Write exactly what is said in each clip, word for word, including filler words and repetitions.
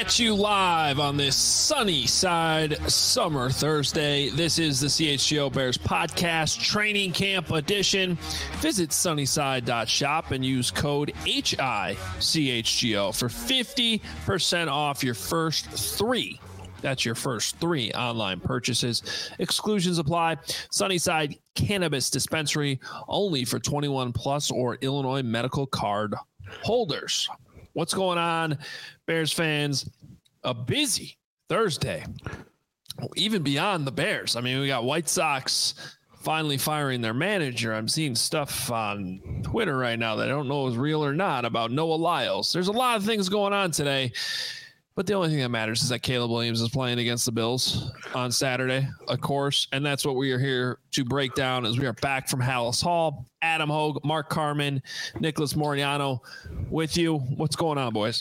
at you live on this sunny side summer Thursday. This is the C H G O Bears podcast training camp edition. Visit sunnyside dot shop and use code H I C H G O for fifty percent off your first three. That's your first three online purchases. Exclusions apply. Sunnyside Cannabis Dispensary, only for twenty-one plus or Illinois medical card holders. What's going on, Bears fans? A busy Thursday, even beyond the Bears. I mean, we got White Sox finally firing their manager. I'm seeing stuff on Twitter right now that I don't know is real or not about Noah Lyles. There's a lot of things going on today, but the only thing that matters is that Caleb Williams is playing against the Bills on Saturday, of course, and that's what we are here to break down as we are back from Halas Hall. Adam Hogue, Mark Carman, Nicholas Moriano with you. What's going on, boys?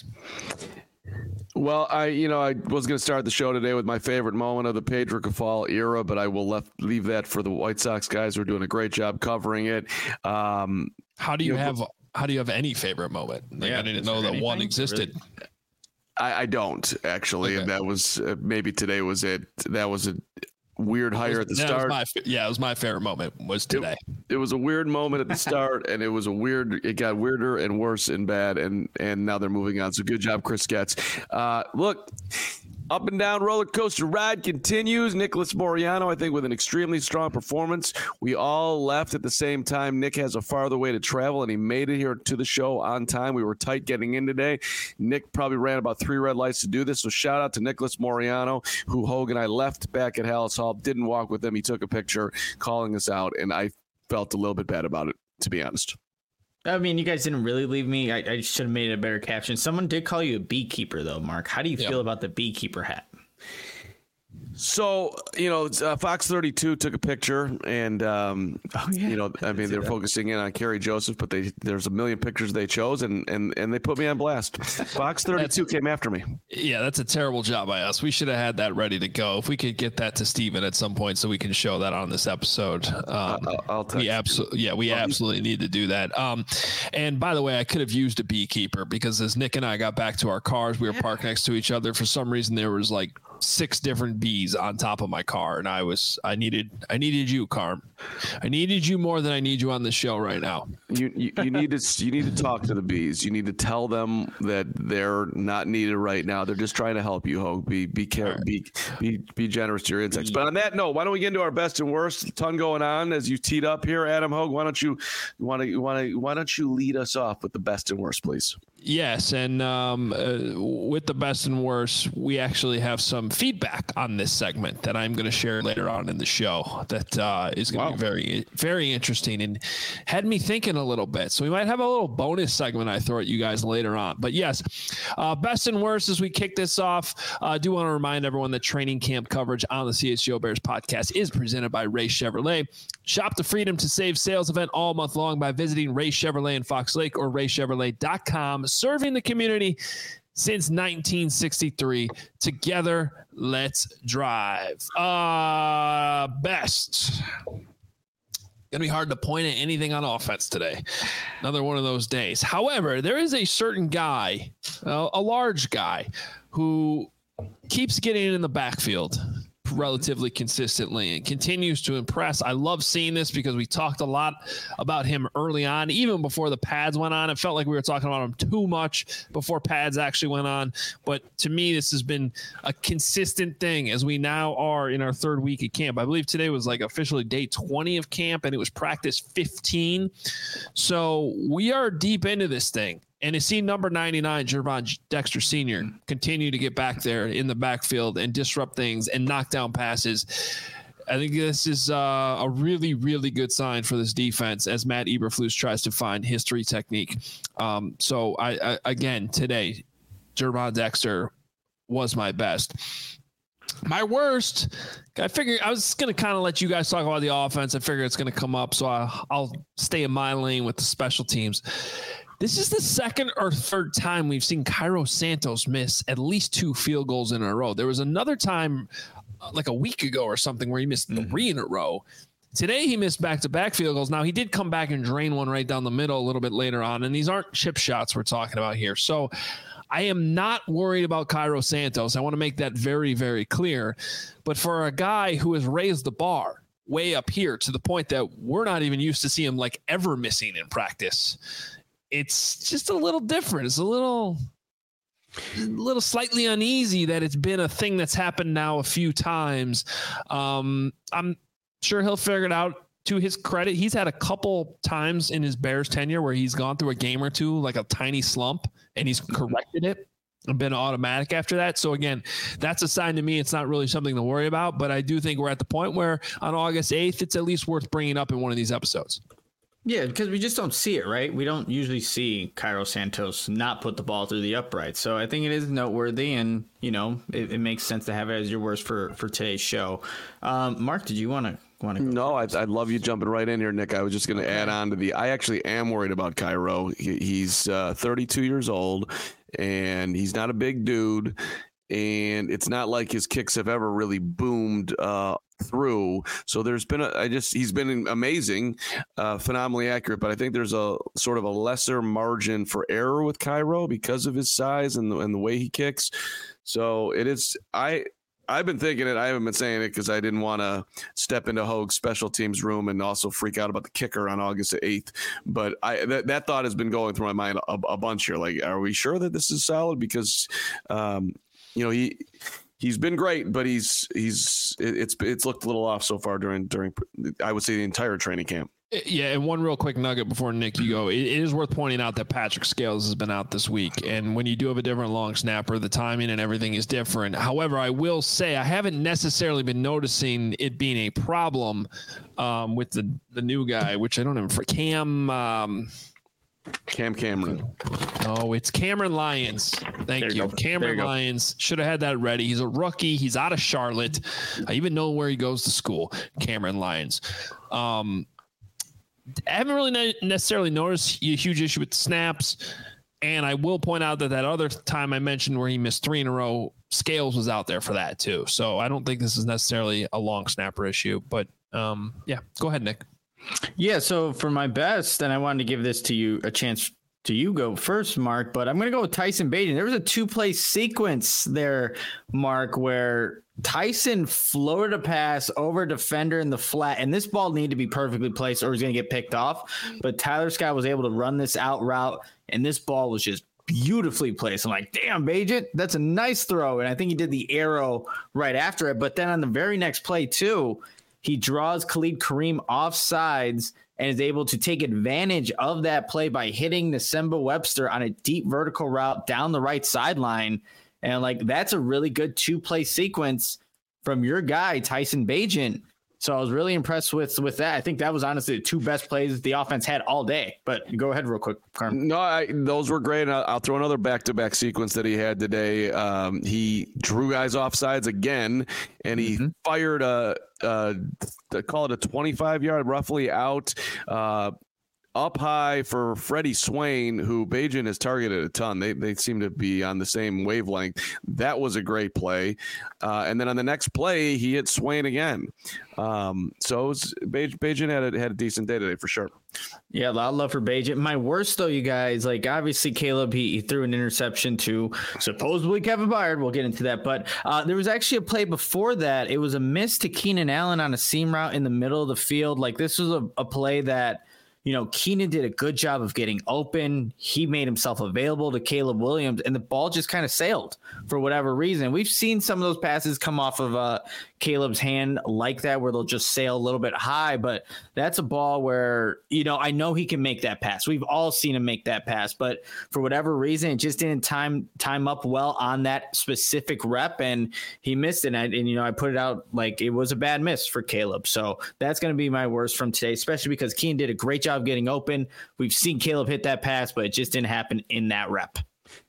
Well, I, you know, I was going to start the show today with my favorite moment of the Pedro Cafal era, but I will left, leave that for the White Sox guys who are doing a great job covering it. Um, how do you, you have, know, how do you have any favorite moment? Like, yeah, I didn't know that anything? one existed. Really? I, I don't actually. Okay. And that was uh, maybe today was it. That was a weird hire was, at the start. My, yeah, it was my favorite moment was today. It, it was a weird moment at the start, and it was a weird. It got weirder and worse and bad, and and now they're moving on. So good job, Chris Getz. Uh, look. Up and down roller coaster ride continues. Nicholas Moriano, I think, with an extremely strong performance. We all left at the same time. Nick has a farther way to travel, and he made it here to the show on time. We were tight getting in today. Nick probably ran about three red lights to do this, so shout out to Nicholas Moriano, who Hogue and I left back at Halas Hall. Didn't walk with him. He took a picture calling us out, and I felt a little bit bad about it, to be honest. I mean, you guys didn't really leave me. I, I should have made a better caption. Someone did call you a beekeeper, though, Mark. How do you yep. feel about the beekeeper hat? So, you know, uh, Fox thirty-two took a picture, and, um, oh, yeah. you know, I mean, they're that. focusing in on Kerry Joseph, but they there's a million pictures they chose, and and, and they put me on blast. Fox thirty-two came after me. Yeah, that's a terrible job by us. We should have had that ready to go. If we could get that to Steven at some point so we can show that on this episode. Um, I'll, I'll text we absolutely, yeah, we absolutely need to do that. Um, and by the way, I could have used a beekeeper because as Nick and I got back to our cars, we were parked next to each other. For some reason, there was like six different bees on top of my car, and I was I needed I needed you, Carm. I needed you more than I need you on the show right now. You, you you need to you need to talk to the bees. You need to tell them that they're not needed right now. They're just trying to help you, Hogue. Be be careful. Right. Be be be generous to your insects. But on that note, why don't we get into our best and worst? A ton going on as you teed up here, Adam Hogue. Why don't you want to want to why don't you lead us off with the best and worst, please? Yes, and um, uh, with the best and worst, we actually have some feedback on this segment that I'm going to share later on in the show that uh, is going to wow. be very, very interesting and had me thinking a little bit. So we might have a little bonus segment I throw at you guys later on. But yes, uh, best and worst as we kick this off, uh, I do want to remind everyone that training camp coverage on the C H G O Bears podcast is presented by Ray Chevrolet. Shop the Freedom to Save sales event all month long by visiting Ray Chevrolet in Fox Lake or ray chevrolet dot com. Serving the community since nineteen sixty-three. Together, let's drive. Uh, best. Gonna be hard to point at anything on offense today. Another one of those days. However, there is a certain guy, uh, a large guy, who keeps getting in the backfield relatively consistently and continues to impress. I love seeing this because we talked a lot about him early on, even before the pads went on. It felt like we were talking about him too much before pads actually went on. But to me, this has been a consistent thing as we now are in our third week of camp. I believe today was like officially day twenty of camp and it was practice fifteen. So we are deep into this thing. And to see number ninety-nine, Gervon Dexter Senior, continue to get back there in the backfield and disrupt things and knock down passes, I think this is uh, a really, really good sign for this defense as Matt Eberflus tries to find his three technique. Um, so, I, I again, today, Gervon Dexter was my best. My worst, I figured I was going to kind of let you guys talk about the offense. I figure it's going to come up, so I, I'll stay in my lane with the special teams. This is the second or third time we've seen Cairo Santos miss at least two field goals in a row. There was another time uh, like a week ago or something where he missed mm-hmm. three in a row. Today he missed back-to-back field goals. Now he did come back and drain one right down the middle a little bit later on, and these aren't chip shots we're talking about here. So I am not worried about Cairo Santos. I want to make that very, very clear. But for a guy who has raised the bar way up here to the point that we're not even used to see him like ever missing in practice, it's just a little different. It's a little, a little slightly uneasy that it's been a thing that's happened now a few times. Um, I'm sure he'll figure it out. To his credit, he's had a couple times in his Bears tenure where he's gone through a game or two, like a tiny slump, and he's corrected it and been automatic after that. So again, that's a sign to me. It's not really something to worry about, but I do think we're at the point where on August eighth, it's at least worth bringing up in one of these episodes. Yeah, because we just don't see it, right? We don't usually see Cairo Santos not put the ball through the upright. So I think it is noteworthy, and, you know, it, it makes sense to have it as your worst for, for today's show. Um, Mark, did you want to want to go? No, I'd, I'd love you jumping right in here, Nick. I was just going to okay. add on to the – I actually am worried about Cairo. He, he's uh, thirty-two years old, and he's not a big dude, and it's not like his kicks have ever really boomed uh through. So there's been a, I just, he's been amazing, uh, phenomenally accurate, but I think there's a sort of a lesser margin for error with Cairo because of his size and the, and the way he kicks. So it is, I, I've been thinking it. I haven't been saying it because I didn't want to step into Hogue's special teams room and also freak out about the kicker on August eighth. But I that, that thought has been going through my mind a, a bunch here. Like, are we sure that this is solid? Because, um, you know, he, He's been great, but he's he's it's it's looked a little off so far during during I would say the entire training camp. Yeah, and one real quick nugget before Nick you go, it, it is worth pointing out that Patrick Scales has been out this week, and when you do have a different long snapper, the timing and everything is different. However, I will say I haven't necessarily been noticing it being a problem um, with the the new guy, which I don't know for Cam. Um, Cam Cameron. Oh, it's Cameron Lyons. Thank you. you. Cameron you Lyons. Should have had that ready. He's a rookie. He's out of Charlotte. I even know where he goes to school. Cameron Lyons. Um, I haven't really ne- necessarily noticed a huge issue with the snaps. And I will point out that that other time I mentioned where he missed three in a row, Scales was out there for that too. So I don't think this is necessarily a long snapper issue. But um, yeah, go ahead, Nick. Yeah, so for my best, and I wanted to give this to you a chance to you go first, Mark, but I'm going to go with Tyson Bagent. There was a two-play sequence there, Mark, where Tyson floated a pass over a defender in the flat, and this ball needed to be perfectly placed or he's going to get picked off. But Tyler Scott was able to run this out route, and this ball was just beautifully placed. I'm like, damn, Bagent, that's a nice throw. And I think he did the arrow right after it. But then on the very next play, too, he draws Khalid Kareem off sides and is able to take advantage of that play by hitting Nsemba Webster on a deep vertical route down the right sideline. And like, that's a really good two play sequence from your guy, Tyson Bagent. So I was really impressed with, with that. I think that was honestly the two best plays the offense had all day. But go ahead real quick, Carm. No, I, those were great. I'll, I'll throw another back-to-back sequence that he had today. Um, he drew guys off sides again, and he mm-hmm. fired a, a, a, call it a twenty-five yard roughly out, uh, up high for Freddie Swain, who Bagent has targeted a ton. They they seem to be on the same wavelength. That was a great play. Uh, and then on the next play, he hit Swain again. Um, so it was, Bagent had a, had a decent day today for sure. Yeah, a lot of love for Bagent. My worst, though, you guys, like obviously Caleb, he, he threw an interception to supposedly Kevin Byard. We'll get into that. But uh, there was actually a play before that. It was a miss to Keenan Allen on a seam route in the middle of the field. Like this was a, a play that, you know, Keenan did a good job of getting open. He made himself available to Caleb Williams, and the ball just kind of sailed for whatever reason. We've seen some of those passes come off of uh, Caleb's hand like that, where they'll just sail a little bit high. But that's a ball where, you know, I know he can make that pass. We've all seen him make that pass, but for whatever reason, it just didn't time time up well on that specific rep, and he missed it. And, I, and you know, I put it out like it was a bad miss for Caleb. So that's going to be my worst from today, especially because Keenan did a great job getting open. We've seen Caleb hit that pass, but it just didn't happen in that rep.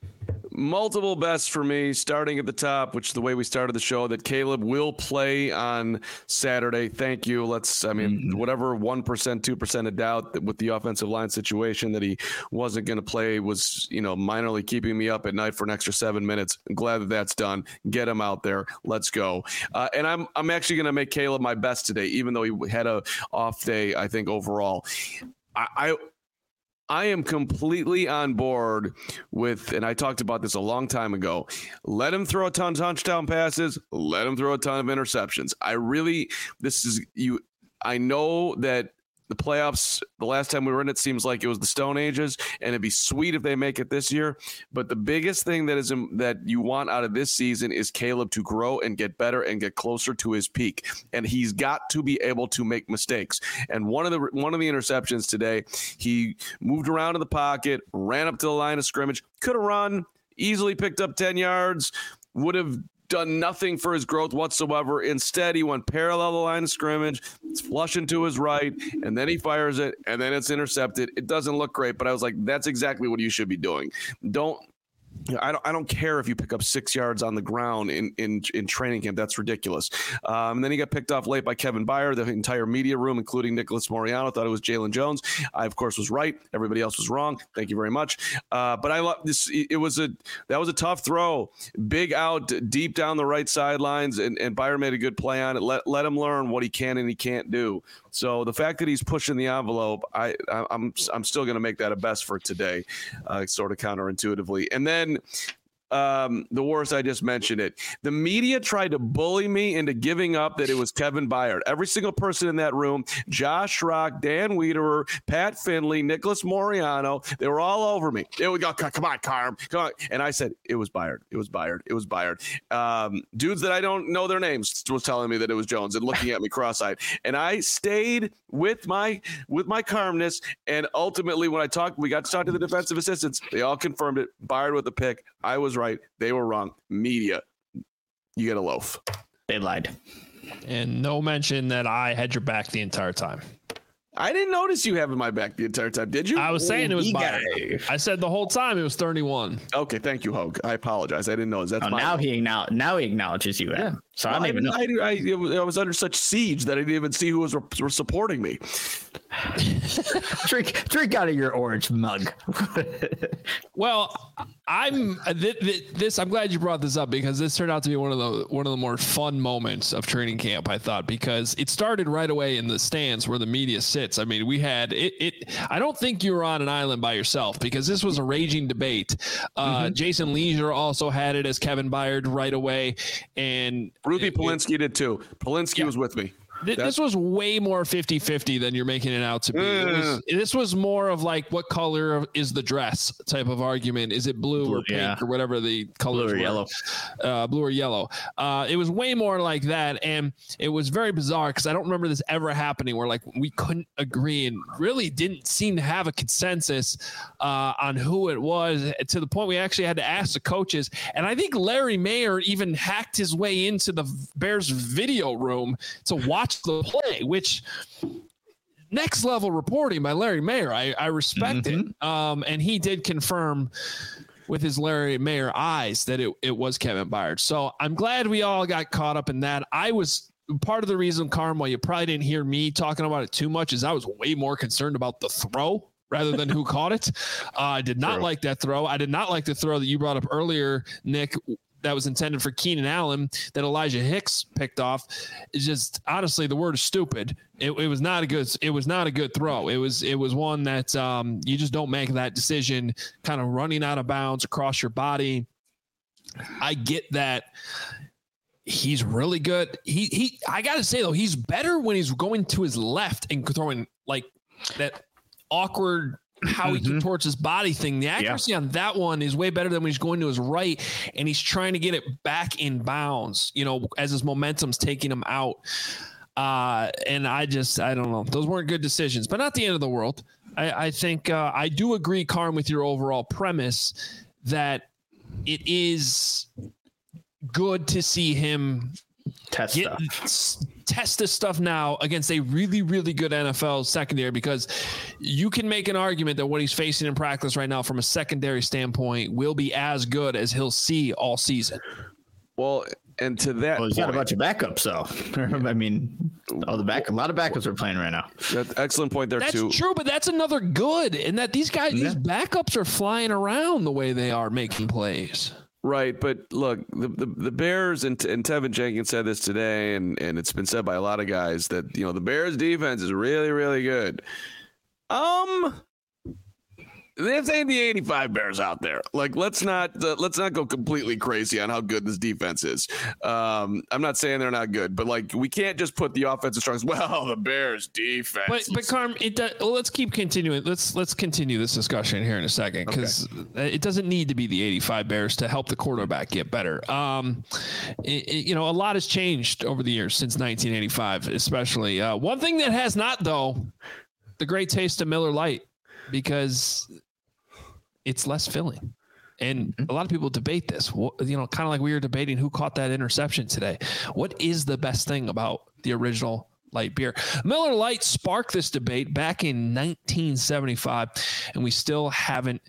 Multiple bests for me, starting at the top, which is the way we started the show, that Caleb will play on Saturday. Thank you. Let's, I mean, mm-hmm. whatever one percent, two percent of doubt that with the offensive line situation that he wasn't going to play was, you know, minorly keeping me up at night for an extra seven minutes. I'm glad that that's done. Get him out there. Let's go. Uh, and I'm, I'm actually going to make Caleb my best today, even though he had a off day, I think, overall. I, I I am completely on board with, and I talked about this a long time ago. Let him throw a ton of touchdown passes. Let him throw a ton of interceptions. I really, this is you. I know that the playoffs, the last time we were in it, seems like it was the Stone Ages, and it'd be sweet if they make it this year. But the biggest thing that is that you want out of this season is Caleb to grow and get better and get closer to his peak. And he's got to be able to make mistakes. And one of the one of the interceptions today, he moved around in the pocket, ran up to the line of scrimmage, could have run, easily picked up ten yards, would have done nothing for his growth whatsoever. Instead, he went parallel the line of scrimmage, it's flushing to his right, and then he fires it, and then it's intercepted. It doesn't look great, but I was like, that's exactly what you should be doing. Don't I don't I don't care if you pick up six yards on the ground in in, in training camp. That's ridiculous. Um, and then he got picked off late by Kevin Byard. The entire media room, including Nicholas Moriano, thought it was Jalen Jones. I, of course, was right. Everybody else was wrong. Thank you very much. Uh, but I love this. It was a that was a tough throw, big out, deep down the right sidelines, and, and Byard made a good play on it. Let let him learn what he can and he can't do. So the fact that he's pushing the envelope, I, I I'm I'm still going to make that a best for today, uh, sort of counterintuitively. And then um, the worst, I just mentioned it. The media tried to bully me into giving up that it was Kevin Byard. Every single person in that room, Josh Rock, Dan Wiederer, Pat Finley, Nicholas Moriano, they were all over me. They would go, come on, Carm, come on. And I said, it was Byard. It was Byard. It was Byard. Um, dudes that I don't know their names was telling me that it was Jones and looking at me cross-eyed. And I stayed with my with my calmness. And ultimately, when I talked, we got to talk to the defensive assistants. They all confirmed it. Byard with the pick. I was right. They were wrong. Media, you get a loaf. They lied. And no mention that I had your back the entire time. I didn't notice you having my back the entire time, did you? I was saying it was Byard. I said the whole time it was thirty-one. Okay, thank you, Hogue. I apologize. I didn't know. That's oh, my now he now now he acknowledges you. Yeah. So well, I don't even know. I, I, I was under such siege that I didn't even see who was were supporting me. drink drink out of your orange mug. Well, I'm th- th- this. I'm glad you brought this up because this turned out to be one of the one of the more fun moments of training camp. I thought because it started right away in the stands where the media sits. I mean, we had it. it I don't think you were on an island by yourself because this was a raging debate. Uh, mm-hmm. Jason Leisure also had it as Kevin Byard right away, and Ruthie Polinsky did too. Polinsky yeah. was with me. Th- this was way more fifty-fifty than you're making it out to be. Mm. It was, this was more of like, what color is the dress type of argument? Is it blue, blue or pink yeah. or whatever the colors blue or were? Yellow. Uh, blue or yellow. Uh, it was way more like that. And it was very bizarre because I don't remember this ever happening where like we couldn't agree and really didn't seem to have a consensus uh, on who it was to the point we actually had to ask the coaches. And I think Larry Mayer even hacked his way into the Bears video room to watch the play, which next level reporting by Larry Mayer. I, I respect mm-hmm. it. Um, and he did confirm with his Larry Mayer eyes that it, it was Kevin Byard. So I'm glad we all got caught up in that. I was part of the reason, Carm, why you probably didn't hear me talking about it too much is I was way more concerned about the throw rather than who caught it. Uh, I did not True. like that throw. I did not like the throw that you brought up earlier, Nick, that was intended for Keenan Allen that Elijah Hicks picked off. It's just honestly, the word is stupid. It, it was not a good. It was not a good throw. It was. It was one that um, you just don't make that decision, kind of running out of bounds across your body. I get that. He's really good. He he. I gotta say though, he's better when he's going to his left and throwing like that awkward. How he mm-hmm. contorts his body thing. The accuracy yeah. on that one is way better than when he's going to his right and he's trying to get it back in bounds, you know, as his momentum's taking him out. Uh, and I just, I don't know. Those weren't good decisions, but not the end of the world. I, I think uh, I do agree, Carm, with your overall premise that it is good to see him test get, stuff. test this stuff now against a really, really good N F L secondary, because you can make an argument that what he's facing in practice right now from a secondary standpoint will be as good as he'll see all season. Well, and to that well, he's point, got a bunch of backups, so I mean, all the back, a lot of backups are playing right now. That's excellent point there that's too. That's true, but that's another good, in that these guys, yeah. these backups are flying around the way they are making plays. Right, but look, the, the, the Bears, and, and Tevin Jenkins said this today, and, and it's been said by a lot of guys that, you know, the Bears defense is really, really good. Um, This ain't the eighty-five Bears out there. Like, let's not uh, let's not go completely crazy on how good this defense is. Um, I'm not saying they're not good, but like, we can't just put the offensive strengths. Well, the Bears defense. But but Carm, it does, well, let's keep continuing. Let's let's continue this discussion here in a second, because okay. it doesn't need to be the eighty-five Bears to help the quarterback get better. Um, it, it, you know, a lot has changed over the years since nineteen eighty-five, especially. Uh, one thing that has not, though, the great taste of Miller Lite, because it's less filling. And a lot of people debate this, you know, kind of like we were debating who caught that interception today. What is the best thing about the original light beer? Miller Lite sparked this debate back in nineteen seventy-five, and we still haven't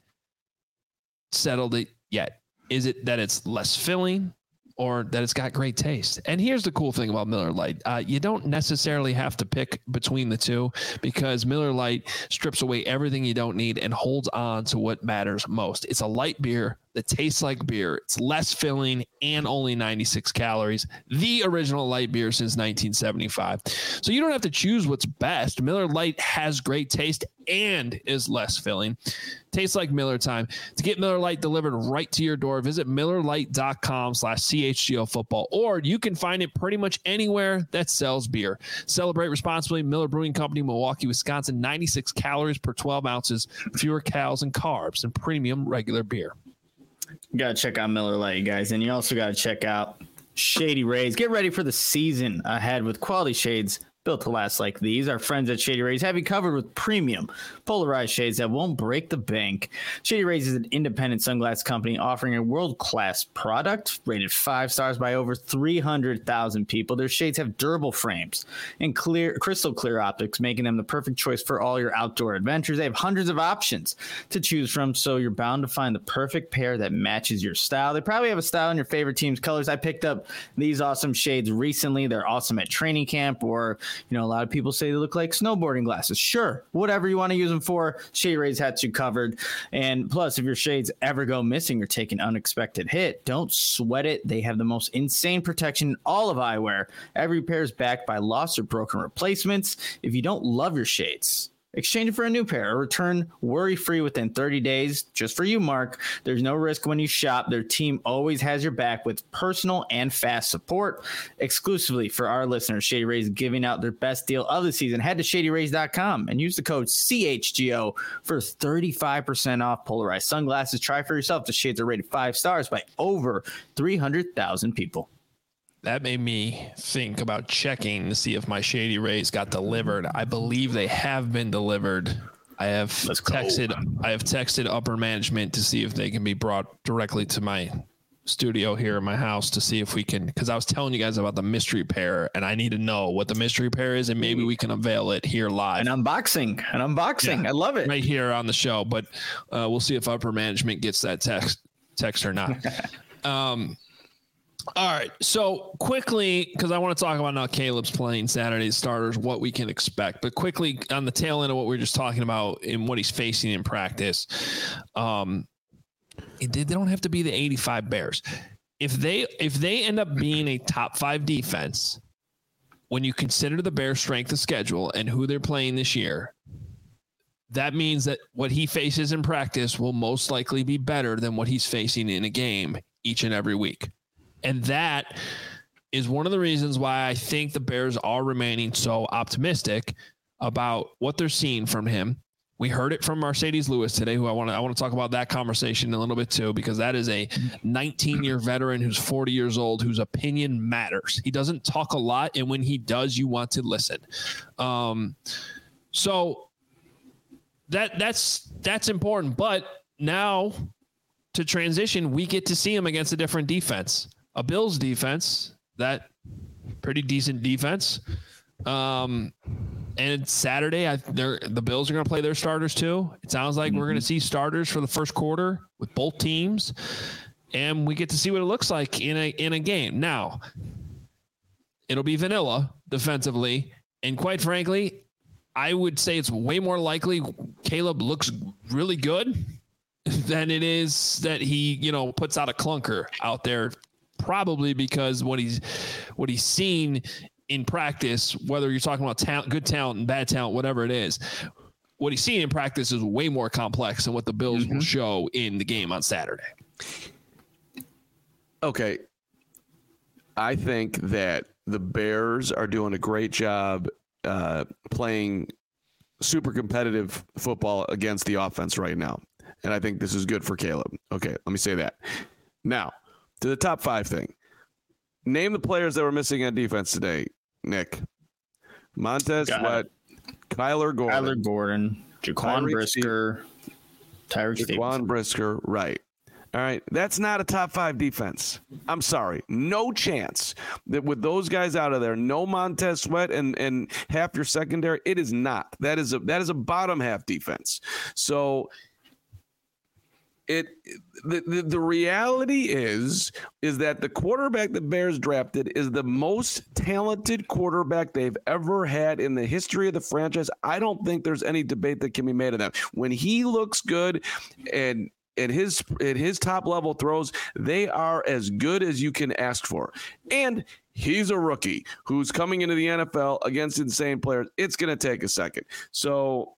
settled it yet. Is it that it's less filling, or that it's got great taste? And here's the cool thing about Miller Lite. Uh, you don't necessarily have to pick between the two, because Miller Lite strips away everything you don't need and holds on to what matters most. It's a light beer that tastes like beer. It's less filling and only ninety-six calories. The original light beer since nineteen seventy-five. So you don't have to choose what's best. Miller Lite has great taste and is less filling. Tastes like Miller time. To get Miller Lite delivered right to your door, visit Miller Lite dot com slash C H G O football, or you can find it pretty much anywhere that sells beer. Celebrate responsibly. Miller Brewing Company, Milwaukee, Wisconsin. ninety-six calories per twelve ounces, fewer calories and carbs than premium regular beer. You got to check out Miller Lite, guys. And you also got to check out Shady Rays. Get ready for the season ahead with quality shades built to last like these. Our friends at Shady Rays have you covered with premium polarized shades that won't break the bank. Shady Rays is an independent sunglass company offering a world-class product rated five stars by over three hundred thousand people. Their shades have durable frames and clear, crystal clear optics, making them the perfect choice for all your outdoor adventures. They have hundreds of options to choose from, so you're bound to find the perfect pair that matches your style. They probably have a style in your favorite team's colors. I picked up these awesome shades recently. They're awesome at training camp, or you know, a lot of people say they look like snowboarding glasses. Sure, whatever you want to use them for, Shady Rays has you covered. And plus, if your shades ever go missing or take an unexpected hit, don't sweat it. They have the most insane protection in all of eyewear. Every pair is backed by lost or broken replacements. If you don't love your shades, exchange it for a new pair or return worry-free within thirty days. Just for you, Mark. There's no risk when you shop. Their team always has your back with personal and fast support. Exclusively for our listeners, Shady Rays is giving out their best deal of the season. Head to shady rays dot com and use the code C H G O for thirty-five percent off polarized sunglasses. Try for yourself. The shades are rated five stars by over three hundred thousand people. That made me think about checking to see if my Shady Rays got delivered. I believe they have been delivered. I have Let's texted go. I have texted upper management to see if they can be brought directly to my studio here in my house to see if we can, because I was telling you guys about the mystery pair, and I need to know what the mystery pair is, and maybe we can unveil it here live. An unboxing. An unboxing. Yeah, I love it. Right here on the show, but uh, we'll see if upper management gets that text text or not. um All right, so quickly, because I want to talk about now Caleb's playing Saturday's starters, what we can expect. But quickly, on the tail end of what we were just talking about and what he's facing in practice, um, they don't have to be the eighty-five Bears. If they if they end up being a top five defense, when you consider the Bears' strength of schedule and who they're playing this year, that means that what he faces in practice will most likely be better than what he's facing in a game each and every week. And that is one of the reasons why I think the Bears are remaining so optimistic about what they're seeing from him. We heard it from Mercedes Lewis today, who I want to I want to talk about that conversation a little bit too, because that is a nineteen-year veteran who's forty years old, whose opinion matters. He doesn't talk a lot, and when he does, you want to listen. Um, so that that's that's important. But now to transition, we get to see him against a different defense. A Bills defense, that pretty decent defense. Um, and Saturday, I, the Bills are going to play their starters too. It sounds like mm-hmm. we're going to see starters for the first quarter with both teams, and we get to see what it looks like in a in a game. Now, it'll be vanilla defensively, and quite frankly, I would say it's way more likely Caleb looks really good than it is that he, you know, puts out a clunker out there. Probably because what he's what he's seen in practice, whether you're talking about talent, good talent and bad talent, whatever it is, what he's seen in practice is way more complex than what the Bills Mm-hmm. will show in the game on Saturday. Okay. I think that the Bears are doing a great job uh, playing super competitive football against the offense right now. And I think this is good for Caleb. Okay, let me say that. Now, to the top five thing. Name the players that were missing on defense today, Nick. Montez Got Sweat, Kyler Gordon. Kyler Gordon, Jaquan Tyreek Brisker, Tyreek Jaquan Stevenson. Brisker, right. All right, that's not a top five defense. I'm sorry. No chance that with those guys out of there, no Montez Sweat and, and half your secondary, it is not. That is a that is a bottom half defense. So it the, the, the reality is is that the quarterback the Bears drafted is the most talented quarterback they've ever had in the history of the franchise. I don't think there's any debate that can be made of that. When he looks good and at his at his top level throws, they are as good as you can ask for. And he's a rookie who's coming into the N F L against insane players. It's going to take a second. So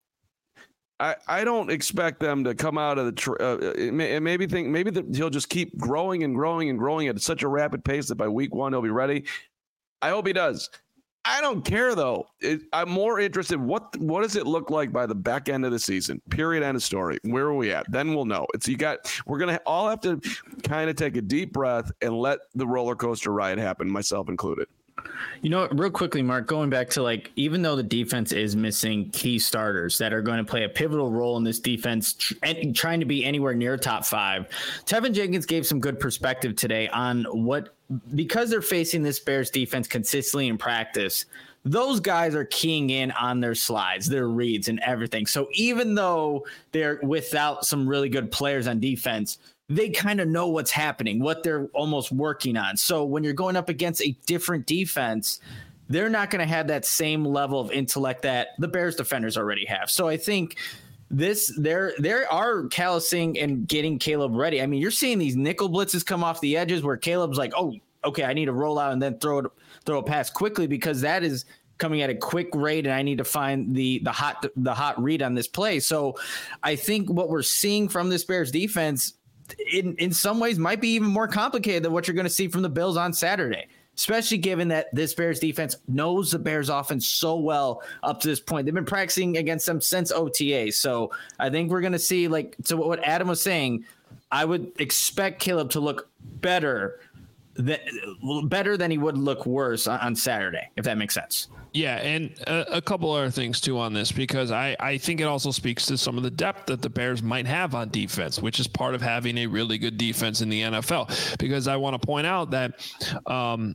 I, I don't expect them to come out of the tr- uh, may, maybe think maybe the, he'll just keep growing and growing and growing at such a rapid pace that by week one he'll be ready. I hope he does. I don't care though. It, I'm more interested. What what does it look like by the back end of the season? Period. End of story. Where are we at? Then we'll know. It's you got. We're gonna all have to kind of take a deep breath and let the roller coaster ride happen, myself included. You know, real quickly, Mark, going back to like, even though the defense is missing key starters that are going to play a pivotal role in this defense tr- and trying to be anywhere near top five, Tevin Jenkins gave some good perspective today on what, because they're facing this Bears defense consistently in practice, those guys are keying in on their slides, their reads and everything. So even though they're without some really good players on defense, they kind of know what's happening, what they're almost working on. So when you're going up against a different defense, they're not going to have that same level of intellect that the Bears defenders already have. So I think this, they're, they are callousing and getting Caleb ready. I mean, you're seeing these nickel blitzes come off the edges where Caleb's like, oh, okay, I need to roll out and then throw it, throw a pass quickly because that is coming at a quick rate and I need to find the the hot the hot read on this play. So I think what we're seeing from this Bears defense in, in some ways might be even more complicated than what you're going to see from the Bills on Saturday, especially given that this Bears defense knows the Bears offense so well up to this point. They've been practicing against them since O T A. So I think we're going to see, like, to what Adam was saying, I would expect Caleb to look better than, better than he would look worse on, on Saturday, if that makes sense. Yeah, and a, a couple other things, too, on this, because I, I think it also speaks to some of the depth that the Bears might have on defense, which is part of having a really good defense in the N F L. Because I want to point out that um,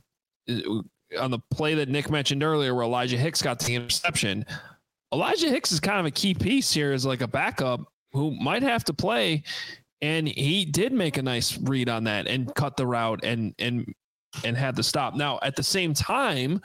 on the play that Nick mentioned earlier where Elijah Hicks got the interception, Elijah Hicks is kind of a key piece here as like a backup who might have to play, and he did make a nice read on that and cut the route and and and had the stop. Now, at the same time,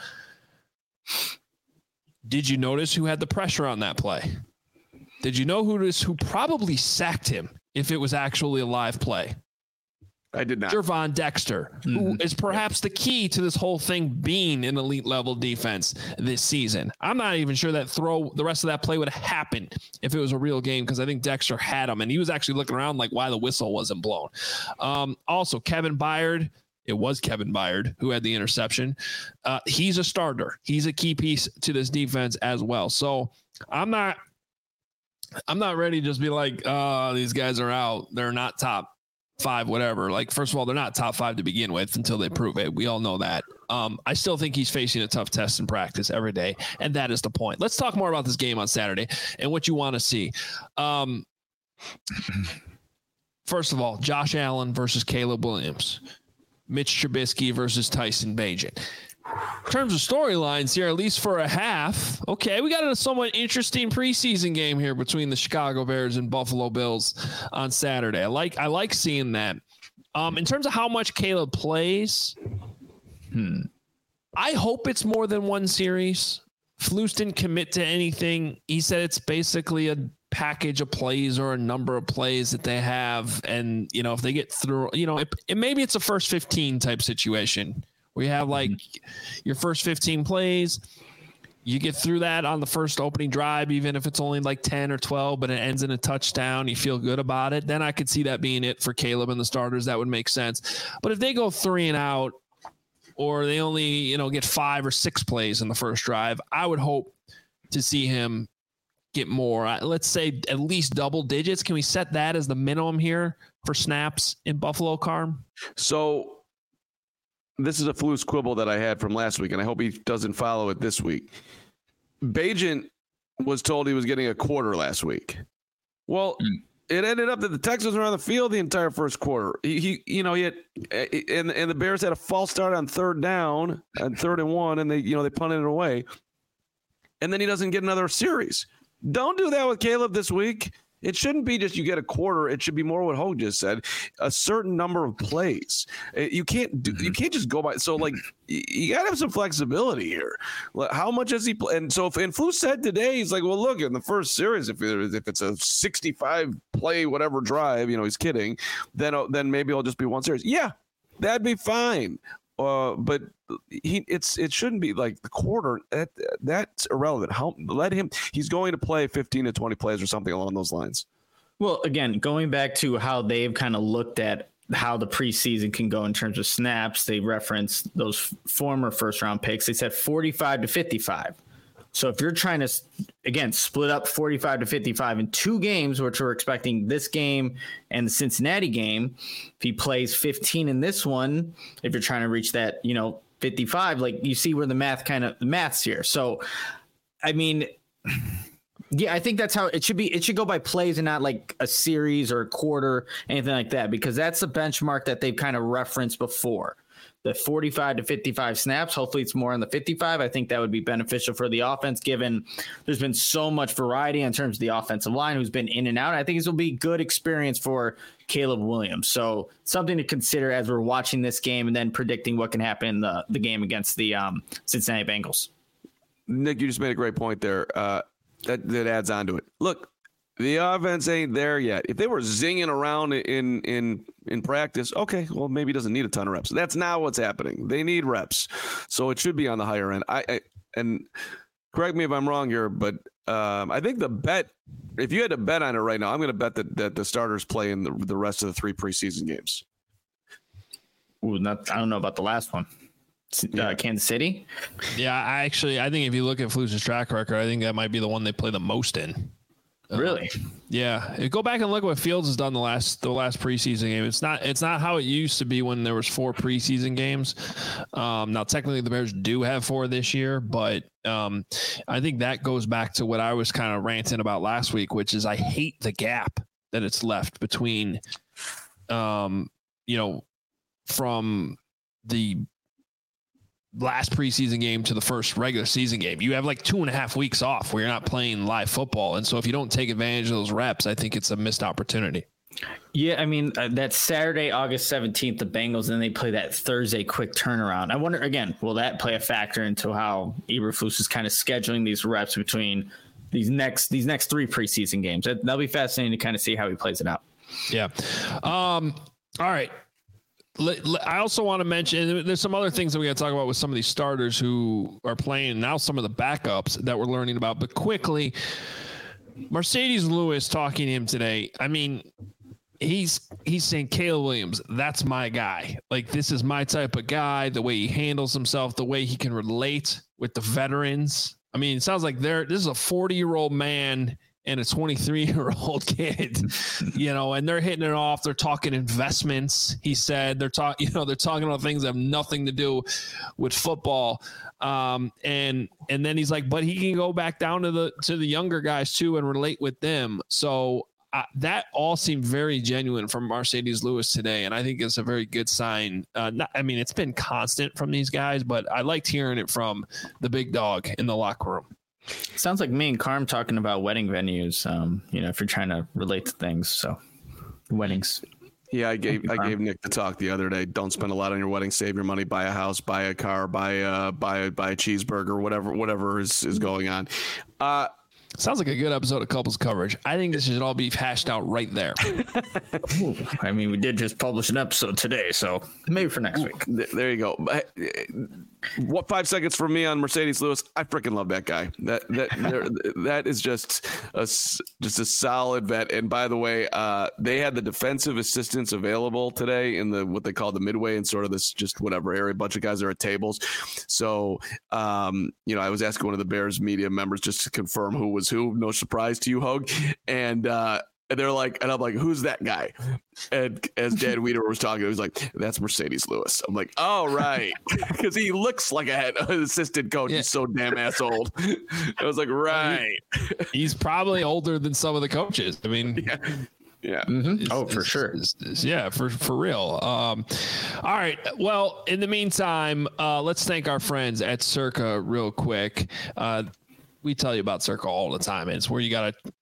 did you notice who had the pressure on that play? Did you know who this who probably sacked him if it was actually a live play? I did not. Gervon Dexter, mm-hmm. who is perhaps the key to this whole thing being an elite level defense this season. I'm not even sure that throw, the rest of that play would have happened if it was a real game, because I think Dexter had him, and he was actually looking around like why the whistle wasn't blown. Um, also, Kevin Byard, it was Kevin Byard who had the interception. Uh, he's a starter. He's a key piece to this defense as well. So I'm not, I'm not ready to just be like, oh, these guys are out. They're not top five, whatever. Like, first of all, they're not top five to begin with until they prove it. We all know that. Um, I still think he's facing a tough test in practice every day, and that is the point. Let's talk more about this game on Saturday and what you want to see. Um, first of all, Josh Allen versus Caleb Williams, Mitch Trubisky versus Tyson Bagent. In terms of storylines here, at least for a half, okay, we got a somewhat interesting preseason game here between the Chicago Bears and Buffalo Bills on Saturday. I like I like seeing that. Um, in terms of how much Caleb plays, hmm, I hope it's more than one series. Flus didn't commit to anything. He said it's basically a package of plays or a number of plays that they have, and you know if they get through, you know, it, it maybe it's a first fifteen type situation. We have like your first fifteen plays. you get through that on the first opening drive, even if it's only like ten or twelve, but it ends in a touchdown, you feel good about it, then I could see that being it for Caleb and the starters. That would make sense. But if they go three and out, or they only, you know, get five or six plays in the first drive, I would hope to see him get more. Let's say at least double digits. Can we set that as the minimum here for snaps in Buffalo, Carm? So this is a Flus quibble that I had from last week, and I hope he doesn't follow it this week. Bagent was told he was getting a quarter last week. Well, mm. it ended up that the Texans were on the field the entire first quarter. He, he you know, he had, and and the Bears had a false start on third down and third and one, and they, you know, they punted it away. And then he doesn't get another series. Don't do that with Caleb this week. It shouldn't be just you get a quarter. It should be more what Hogue just said, a certain number of plays. You can't do, you can't just go by. So like you got to have some flexibility here. How much has he play? And so if and Flus said today, he's like, well, look, in the first series, if it, if it's a sixty-five play whatever drive, you know, he's kidding. Then then maybe it'll just be one series. Yeah, that'd be fine. Uh, but he, it's it shouldn't be like the quarter. That that's irrelevant. How let him? He's going to play fifteen to twenty plays or something along those lines. Well, again, going back to how they've kind of looked at how the preseason can go in terms of snaps, they referenced those former first round picks. They said forty-five to fifty-five. So if you're trying to, again, split up forty-five to fifty-five in two games, which we're expecting this game and the Cincinnati game, if he plays fifteen in this one, if you're trying to reach that, you know, fifty-five, like you see where the math kind of the math's here. So, I mean, yeah, I think that's how it should be. It should go by plays and not like a series or a quarter, anything like that, because that's the benchmark that they've kind of referenced before. The forty-five to fifty-five snaps. Hopefully it's more on the fifty-five. I think that would be beneficial for the offense, given there's been so much variety in terms of the offensive line who's been in and out. I think this will be good experience for Caleb Williams. So something to consider as we're watching this game and then predicting what can happen in the, the game against the um, Cincinnati Bengals. Nick, you just made a great point there. Uh, that, that adds on to it. Look, the offense ain't there yet. If they were zinging around in in in practice, okay, well, maybe he doesn't need a ton of reps. That's not what's happening. They need reps, so it should be on the higher end. I, I and correct me if I'm wrong here, but um, I think the bet, if you had to bet on it right now, I'm going to bet that, that the starters play in the, the rest of the three preseason games. Ooh, not I don't know about the last one. Uh, yeah. Kansas City. Yeah, I actually I think if you look at Flus's track record, I think that might be the one they play the most in. Really? Um, yeah. Go back and look at what Fields has done the last the last preseason game. It's not it's not how it used to be when there was four preseason games. Um, now technically the Bears do have four this year, but um, I think that goes back to what I was kind of ranting about last week, which is I hate the gap that it's left between, um, you know, from the last preseason game to the first regular season game. You have like two and a half weeks off where you're not playing live football. And so if you don't take advantage of those reps, I think it's a missed opportunity. Yeah, I mean, uh, that Saturday, August seventeenth, the Bengals, and they play that Thursday quick turnaround. I wonder, again, will that play a factor into how Eberflus is kind of scheduling these reps between these next these next three preseason games? That, that'll be fascinating to kind of see how he plays it out. Yeah. Um, all right. I also want to mention there's some other things that we got to talk about with some of these starters who are playing now, some of the backups that we're learning about. But quickly, Marcedes Lewis talking to him today. I mean, he's he's saying, Caleb Williams, that's my guy. Like, this is my type of guy, the way he handles himself, the way he can relate with the veterans. I mean, it sounds like they're this is a forty-year-old man and a twenty-three-year-old kid, you know, and they're hitting it off. They're talking investments. He said they're talking, you know, they're talking about things that have nothing to do with football. Um, and and then he's like, but he can go back down to the to the younger guys too and relate with them. So uh, that all seemed very genuine from Marcedes Lewis today, and I think it's a very good sign. Uh, not, I mean, it's been constant from these guys, but I liked hearing it from the big dog in the locker room. Sounds like me and Carm talking about wedding venues. Um, you know, if you're trying to relate to things, so weddings. Yeah, I gave I gave Nick the talk the other day. Don't spend a lot on your wedding. Save your money. Buy a house. Buy a car. Buy a buy a, buy a cheeseburger. Whatever whatever is is going on. Uh, Sounds like a good episode of Couples Coverage. I think this should all be hashed out right there. Ooh, I mean, we did just publish an episode today, so maybe for next week. There you go. What five seconds from me on Mercedes Lewis? I freaking love that guy. That that that is just a just a solid vet. And by the way, uh, they had the defensive assistants available today in the what they call the midway and sort of this just whatever area. A bunch of guys are at tables. So um, you know, I was asking one of the Bears media members just to confirm who was who. No surprise to you, Hogue. And uh, and they're like, and I'm like, who's that guy? And as Dan Weeder was talking, he was like, that's Mercedes Lewis. I'm like, oh, right. Because he looks like a head assistant coach. Yeah. He's so damn ass old. I was like, right. He's probably older than some of the coaches. I mean, yeah. Yeah. Mm-hmm. Oh, for it's, sure. It's, it's, yeah, for, for real. Um, all right. Well, in the meantime, uh, let's thank our friends at Circa real quick. Uh, we tell you about Circa all the time. It's where you got to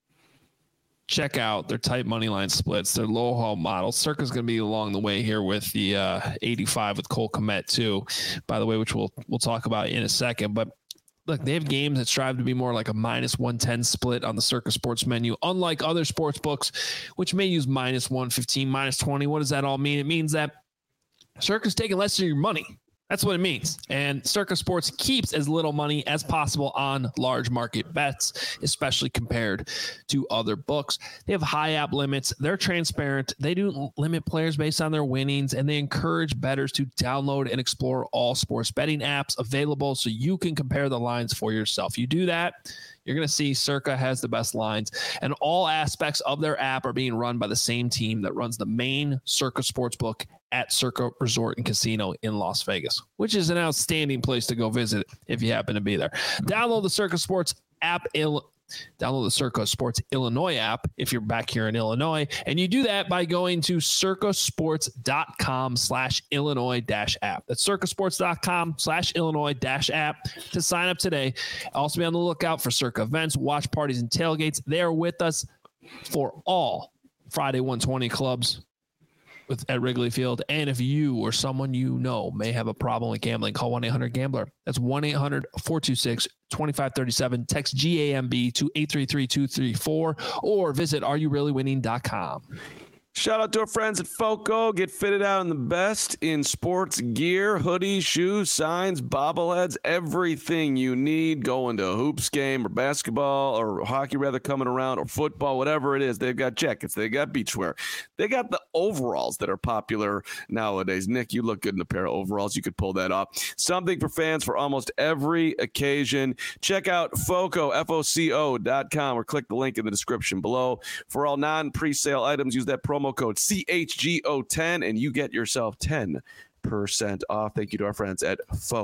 check out their tight money line splits, their low haul models. Circa's going to be along the way here with the uh, eighty-five with Cole Kmet too, by the way, which we'll we'll talk about in a second. But look, they have games that strive to be more like a minus one ten split on the Circa Sports menu, unlike other sports books, which may use minus one fifteen, minus twenty. What does that all mean? It means that Circa's taking less of your money. That's what it means. And Circa Sports keeps as little money as possible on large market bets, especially compared to other books. They have high app limits. They're transparent. They do limit players based on their winnings, and they encourage bettors to download and explore all sports betting apps available so you can compare the lines for yourself. You do that, you're going to see Circa has the best lines, and all aspects of their app are being run by the same team that runs the main Circa Sportsbook at Circa Resort and Casino in Las Vegas, which is an outstanding place to go visit if you happen to be there. Download the Circa Sports app. Il- Download the Circa Sports Illinois app if you're back here in Illinois. And you do that by going to circasports.com slash Illinois dash app. That's circasports.com slash Illinois dash app to sign up today. Also be on the lookout for Circa events, watch parties, and tailgates. They are with us for all Friday one twenty clubs with at Wrigley Field. And if you or someone you know may have a problem with gambling, call one eight hundred gambler. That's one eight hundred four two six two five three seven. Text G A M B to eight three three two three four or visit are you really winning dot com. Shout out to our friends at FOCO. Get fitted out in the best in sports gear, hoodies, shoes, signs, bobbleheads, everything you need going to a hoops game or basketball or hockey rather coming around or football, whatever it is. They've got jackets. They got beachwear. They got the overalls that are popular nowadays. Nick, you look good in a pair of overalls. You could pull that off. Something for fans for almost every occasion. Check out FOCO, F O C O dot com or click the link in the description below. For all non-presale items, use that promo code C H G O ten and you get yourself ten percent off. Thank you to our friends at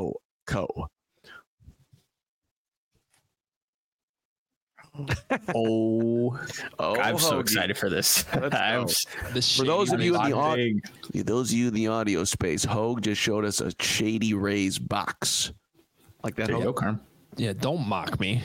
FOCO. oh, oh, I'm so Hoagie. excited for this. I'm, for those of you in the audio, those of you in the audio space, Hogue just showed us a Shady Rays box. Like that. There you go, Carm. Yeah, don't mock me.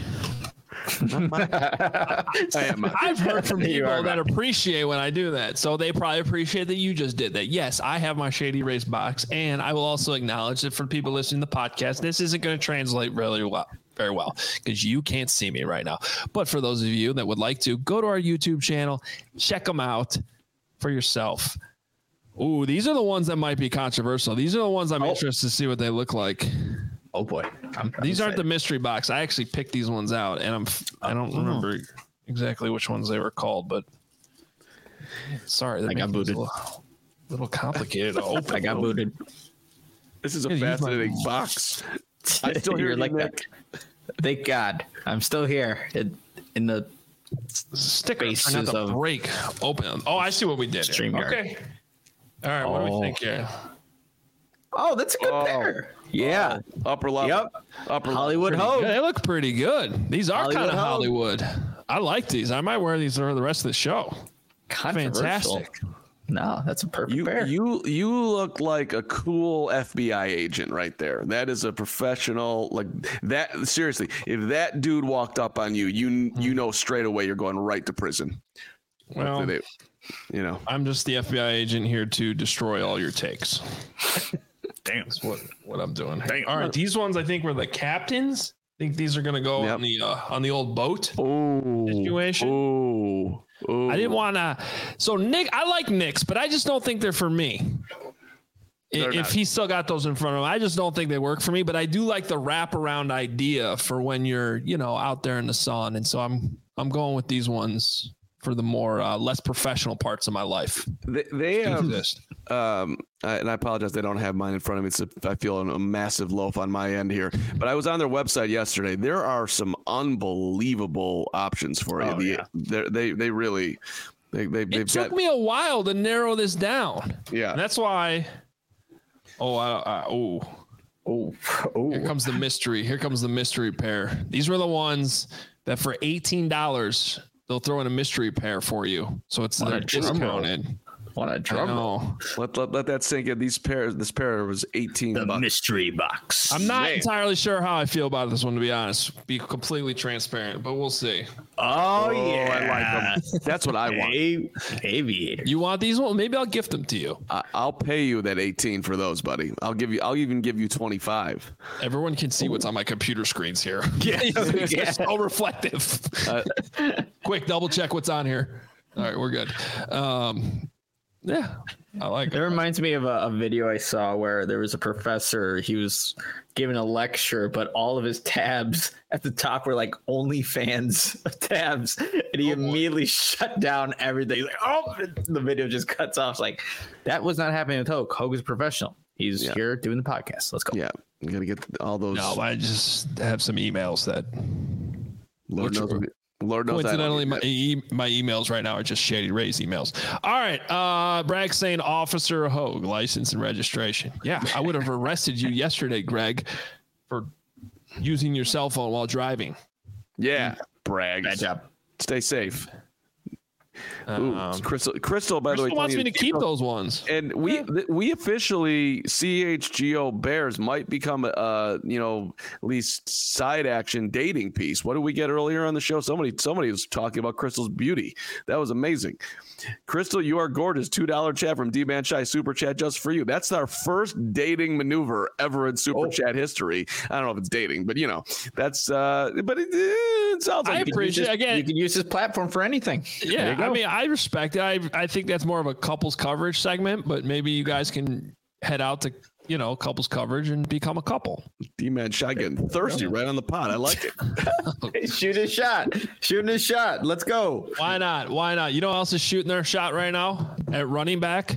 I am. I've heard from people that appreciate when I do that, so they probably appreciate that you just did that. Yes, I have my Shady Rays box, and I will also acknowledge that for people listening to the podcast, this isn't going to translate really well, very well, because you can't see me right now. But for those of you that would like to, go to our YouTube channel, check them out for yourself. Ooh, these are the ones that might be controversial. These are the ones I'm oh. interested to see what they look like. Oh boy, I'm, I'm these excited. aren't the mystery box. I actually picked these ones out, and I'm I don't oh. remember exactly which ones they were called, but sorry, I got booted. A little, little complicated to open. I got booted. This is a yeah, fascinating my... box. I still hear like Nick. that. Thank God, I'm still here in, in the sticker. Not the of break open. Oh, I see what we did. StreamYard. Okay. All right. What oh. do we think here? Oh, that's a good oh. pair. Yeah, oh, upper level. Yep, upper Hollywood Hogue. They look pretty good. These are kind of Hollywood. I like these. I might wear these for the rest of the show. Fantastic. No, that's a perfect you, pair. You you look like a cool F B I agent right there. That is a professional. Like that. Seriously, if that dude walked up on you, you you know straight away you're going right to prison. Well, they, you know, I'm just the F B I agent here to destroy all your takes. Damn, that's what, what I'm doing. Dang. All right, these ones I think were the captains. Think these are going to go yep. on the uh, on the old boat Ooh. situation? Ooh. Ooh. I didn't want to. So Nick, I like Knicks, but I just don't think they're for me. They're if not. He's still got those in front of him, I just don't think they work for me. But I do like the wraparound idea for when you're, you know, out there in the sun. And so I'm I'm going with these ones for the more uh, less professional parts of my life. They, they have, um, and I apologize, they don't have mine in front of me. So I feel a massive loaf on my end here. But I was on their website yesterday. There are some unbelievable options for you. Oh, yeah. the, they they really they they it took got, me a while to narrow this down. Yeah, and that's why. Oh, I, I, oh, oh, oh! Here comes the mystery. Here comes the mystery pair. These were the ones that for eighteen dollars. They'll throw in a mystery pair for you, so it's they're discounted. What a drum! Let, let let that sink in. These pairs, this pair was eighteen. The bucks. Mystery box. I'm not Man. entirely sure how I feel about this one, to be honest. Be completely transparent, but we'll see. Oh, oh yeah, I like them. That's what I want. Aviator. You want these ones? Maybe I'll gift them to you. I, I'll pay you that eighteen for those, buddy. I'll give you. I'll even give you twenty-five. Everyone can see Ooh. what's on my computer screens here. Yeah, it's so reflective. Uh, Quick, double check what's on here. All right, we're good. Um, Yeah, I like it. It reminds me of a, a video I saw where there was a professor. He was giving a lecture, but all of his tabs at the top were like OnlyFans tabs, and he oh, immediately boy. shut down everything. He's like, oh, the video just cuts off. It's like, that was not happening with Hogue. Hogue is a professional. He's yeah. here doing the podcast. Let's go. Yeah, you gotta get all those. No, I just have some emails that. Lord knows. Lord knows Coincidentally, my, e- my emails right now are just Shady Ray's emails. All right. Uh, Bragg saying Officer Hogue, license and registration. Yeah, I would have arrested you yesterday, Greg, for using your cell phone while driving. Yeah, Bragg. Bad job. Stay safe. Ooh, um, Crystal, Crystal, by Crystal the way, wants me to keep those ones. And we th- we officially C H G O Bears might become a uh, you know at least side action dating piece. What did we get earlier on the show? Somebody somebody was talking about Crystal's beauty. That was amazing. Crystal, you are gorgeous. two dollar chat from D-Man Shy Super Chat just for you. That's our first dating maneuver ever in Super oh. Chat history. I don't know if it's dating, but you know that's. Uh, but it, it sounds like I appreciate this, again. You can use this platform for anything. Yeah, I mean, I respect it. I I think that's more of a couples coverage segment, but maybe you guys can head out to, you know, couples coverage and become a couple. D-Man Shy getting thirsty right on the pod. I like it. Shoot a shot. Shooting a shot. Let's go. Why not? Why not? You know who else is shooting their shot right now at running back?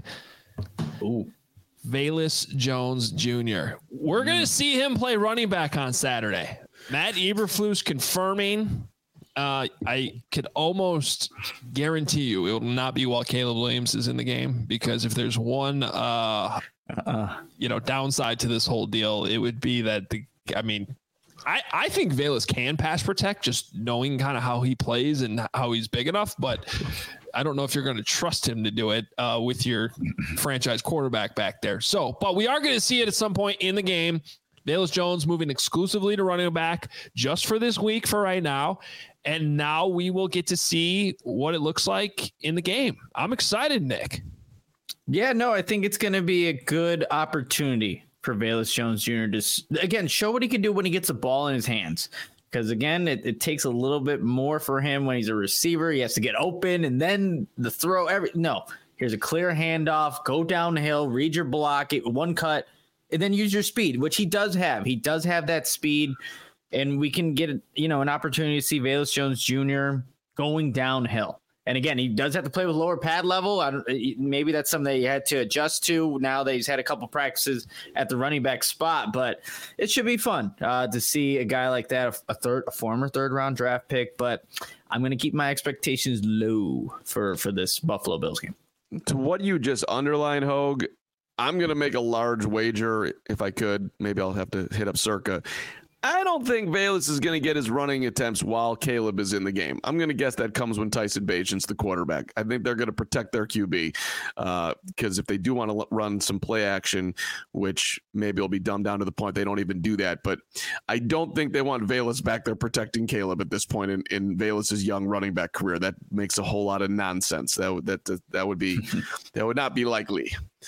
Ooh. Velus Jones Junior We're going to see him play running back on Saturday. Matt Eberflus confirming. Uh, I could almost guarantee you it will not be while Caleb Williams is in the game, because if there's one, uh, uh, you know, downside to this whole deal, it would be that the, I mean, I, I think Velus can pass protect, just knowing kind of how he plays and how he's big enough, but I don't know if you're going to trust him to do it uh, with your franchise quarterback back there. So, but we are going to see it at some point in the game. Velus Jones moving exclusively to running back just for this week for right now. And now we will get to see what it looks like in the game. I'm excited, Nick. Yeah, no, I think it's going to be a good opportunity for Velus Jones Junior to, again, show what he can do when he gets a ball in his hands. Because, again, it, it takes a little bit more for him when he's a receiver. He has to get open and then the throw. Every No, here's a clear handoff. Go downhill, read your block, it, one cut, and then use your speed, which he does have. He does have that speed. And we can get, you know, an opportunity to see Velus Jones Junior going downhill. And again, he does have to play with lower pad level. I don't, maybe that's something that he had to adjust to now that he's had a couple practices at the running back spot. But it should be fun uh, to see a guy like that, a third, a former third round draft pick. But I'm going to keep my expectations low for for this Buffalo Bills game. To what you just underlined, Hogue, I'm going to make a large wager if I could. Maybe I'll have to hit up Circa. I don't think Velus is going to get his running attempts while Caleb is in the game. I'm going to guess that comes when Tyson Bagent's the quarterback. I think they're going to protect their Q B uh, because if they do want to run some play action, which maybe will be dumbed down to the point they don't even do that. But I don't think they want Velus back there protecting Caleb at this point in, in Velus's young running back career. That makes a whole lot of nonsense. That would, that, that would be, that would not be likely.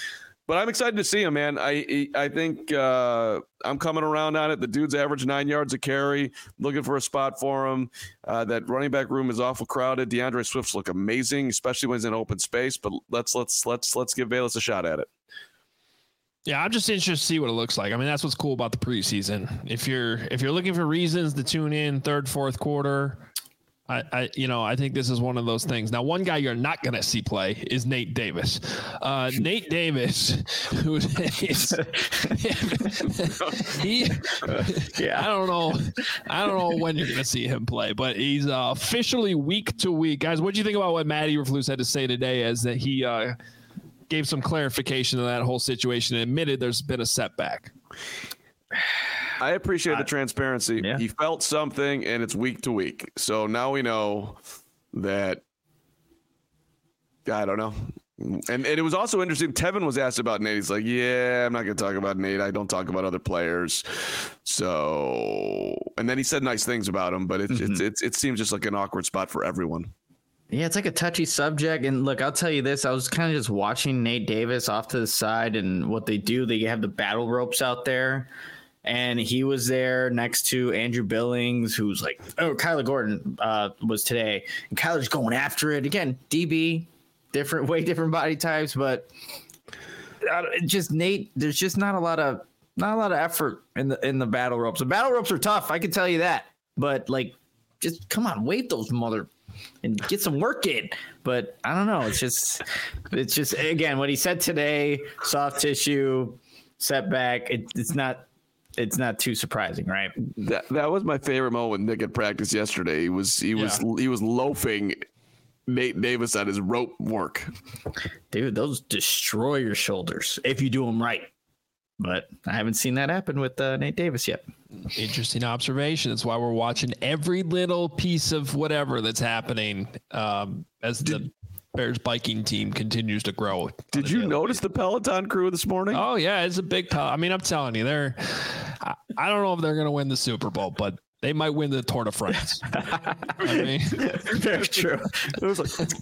But I'm excited to see him, man. I I think uh, I'm coming around on it. The dude's average nine yards a carry. Looking for a spot for him. Uh, that running back room is awful crowded. DeAndre Swift's look amazing, especially when he's in open space. But let's let's let's let's give Velus a shot at it. Yeah, I'm just interested to see what it looks like. I mean, that's what's cool about the preseason. If you're if you're looking for reasons to tune in third, fourth quarter, I, I you know I think this is one of those things. Now, one guy you're not going to see play is Nate Davis. Uh, Nate Davis, who is he? Yeah, I don't know. I don't know when you're going to see him play, but he's uh, officially week to week. Guys, what do you think about what Matt Eberflus had to say today? As that he. Uh, gave some clarification to that whole situation and admitted there's been a setback. I appreciate the transparency. Yeah. He felt something, and it's week to week. So now we know that, I don't know. And, and it was also interesting. Tevin was asked about Nate. He's like, yeah, I'm not going to talk about Nate. I don't talk about other players. So, and then he said nice things about him, but it, mm-hmm. it, it, it seems just like an awkward spot for everyone. Yeah, it's like a touchy subject. And look, I'll tell you this. I was kind of just watching Nate Davis off to the side and what they do. They have the battle ropes out there. And he was there next to Andrew Billings, who's like, oh, Kyler Gordon uh, was today. And Kyler's going after it. Again, D B, different, way different body types. But uh, just Nate, there's just not a lot of not a lot of effort in the in the battle ropes. The battle ropes are tough. I can tell you that. But, like, just come on, wait those mother – and get some work in. But I don't know. It's just, it's just, again, what he said today, soft tissue, setback. It, it's not, it's not too surprising, right? That that was my favorite moment with Nick at practice yesterday. He was, he was, yeah. he was loafing Nate Davis on his rope work. Dude, those destroy your shoulders if you do them right. But I haven't seen that happen with uh, Nate Davis yet. Interesting observation. That's why we're watching every little piece of whatever that's happening um, as the Bears biking team continues to grow. Did you notice the Peloton crew this morning? Oh, yeah. It's a big pel- I mean, I'm telling you, they're I, I don't know if they're going to win the Super Bowl, but they might win the Tour de France. I mean, very true. It was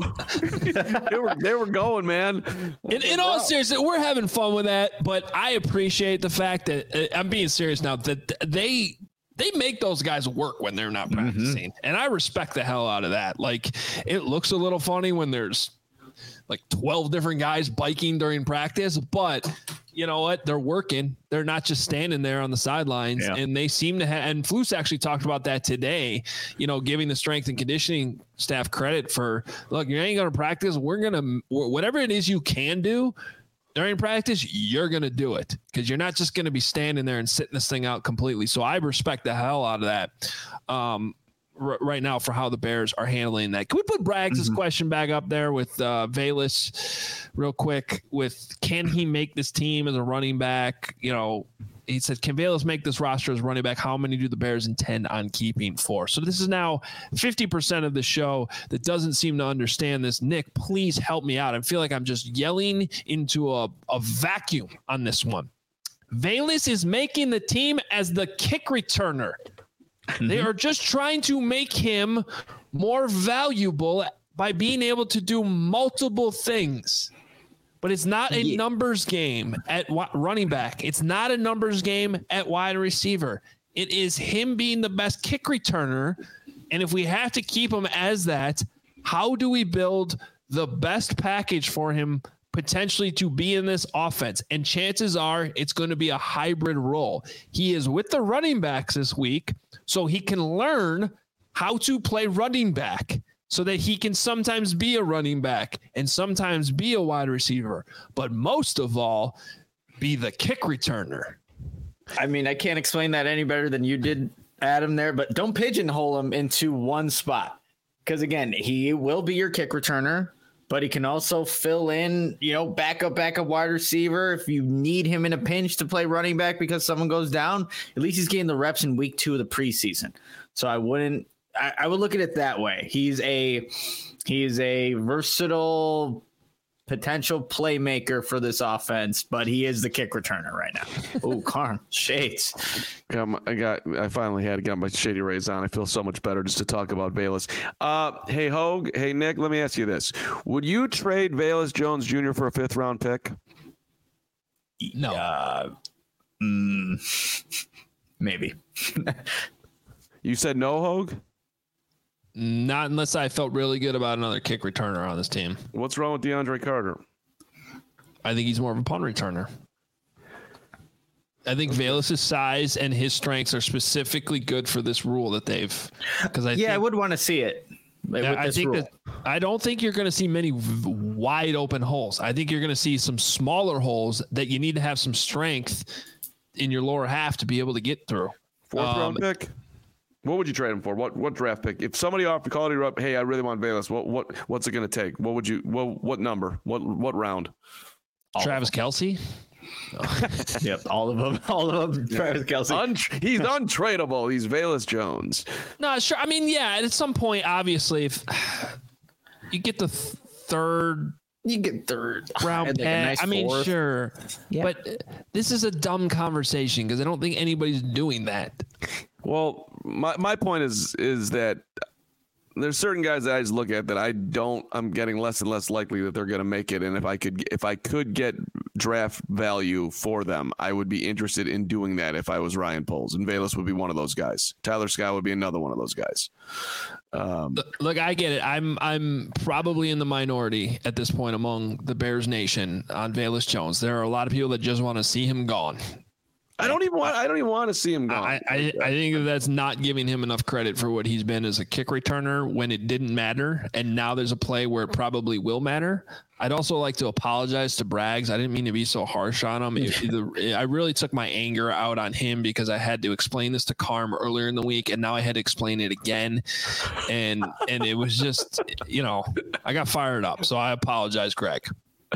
like they were they were going, man. In, in all seriousness, we're having fun with that, but I appreciate the fact that uh, I'm being serious now. That they they make those guys work when they're not practicing, mm-hmm. and I respect the hell out of that. Like, it looks a little funny when there's like twelve different guys biking during practice, but you know what? They're working. They're not just standing there on the sidelines, yeah. and they seem to have, and Flus actually talked about that today, you know, giving the strength and conditioning staff credit for, look, you ain't going to practice. We're going to, whatever it is you can do during practice, you're going to do it, because you're not just going to be standing there and sitting this thing out completely. So I respect the hell out of that. Um, right now for how the Bears are handling that. Can we put Braggs' mm-hmm. question back up there with uh, Velus real quick with, can he make this team as a running back? You know, he said, can Velus make this roster as running back? How many do the Bears intend on keeping for? So this is now fifty percent of the show that doesn't seem to understand this. Nick, please help me out. I feel like I'm just yelling into a, a vacuum on this one. Velus is making the team as the kick returner. Mm-hmm. They are just trying to make him more valuable by being able to do multiple things. But it's not a yeah. numbers game at running back. It's not a numbers game at wide receiver. It is him being the best kick returner. And if we have to keep him as that, how do we build the best package for him potentially to be in this offense? And chances are it's going to be a hybrid role. He is with the running backs this week, so he can learn how to play running back so that he can sometimes be a running back and sometimes be a wide receiver, but most of all, be the kick returner. I mean, I can't explain that any better than you did, Adam, there, but don't pigeonhole him into one spot. Because again, he will be your kick returner, but he can also fill in, you know, backup, backup wide receiver. If you need him in a pinch to play running back because someone goes down, at least he's getting the reps in week two of the preseason. So I wouldn't, I, I would look at it that way. He's a, he's a versatile potential playmaker for this offense, but he is the kick returner right now. Oh, Carm, shades. Um, I got, I finally had to get my Shady Rays on. I feel so much better just to talk about Velus. Uh, hey, Hogue. Hey, Nick, let me ask you this. Would you trade Velus Jones Junior for a fifth round pick? No. Uh, mm, maybe. You said no, Hogue? Not unless I felt really good about another kick returner on this team. What's wrong with DeAndre Carter? I think he's more of a punt returner. I think Velus' size and his strengths are specifically good for this rule that they've. Because I yeah, think, I would want to see it. With I this think rule. that I don't think you're going to see many v- wide open holes. I think you're going to see some smaller holes that you need to have some strength in your lower half to be able to get through. Fourth Um, round pick? What would you trade him for? What what draft pick? If somebody offered called you up, hey, I really want Velus. What what what's it going to take? What would you? What what number? What what round? Travis Kelce. Yep, all of them. All of them. Travis Kelce. Un- he's untradeable. He's Velus Jones. No, sure. I mean, yeah. At some point, obviously, if you get the th- third You get third round Like a pick, nice I mean, fourth. sure. Yeah. But this is a dumb conversation because I don't think anybody's doing that. Well, my my point is is that there's certain guys that I just look at that I don't. I'm getting less and less likely that they're going to make it. And if I could, if I could get draft value for them, I would be interested in doing that. If I was Ryan Poles, and Velus would be one of those guys. Tyler Scott would be another one of those guys. Um, Look, I get it. I'm I'm probably in the minority at this point among the Bears Nation on Velus Jones. There are a lot of people that just want to see him gone. I don't even want. I don't even want to see him gone. I, I, I think that that's not giving him enough credit for what he's been as a kick returner when it didn't matter, and now there's a play where it probably will matter. I'd also like to apologize to Braggs. I didn't mean to be so harsh on him. It, the, I really took my anger out on him because I had to explain this to Carm earlier in the week, and now I had to explain it again, and and it was just, you know, I got fired up. So I apologize, Greg.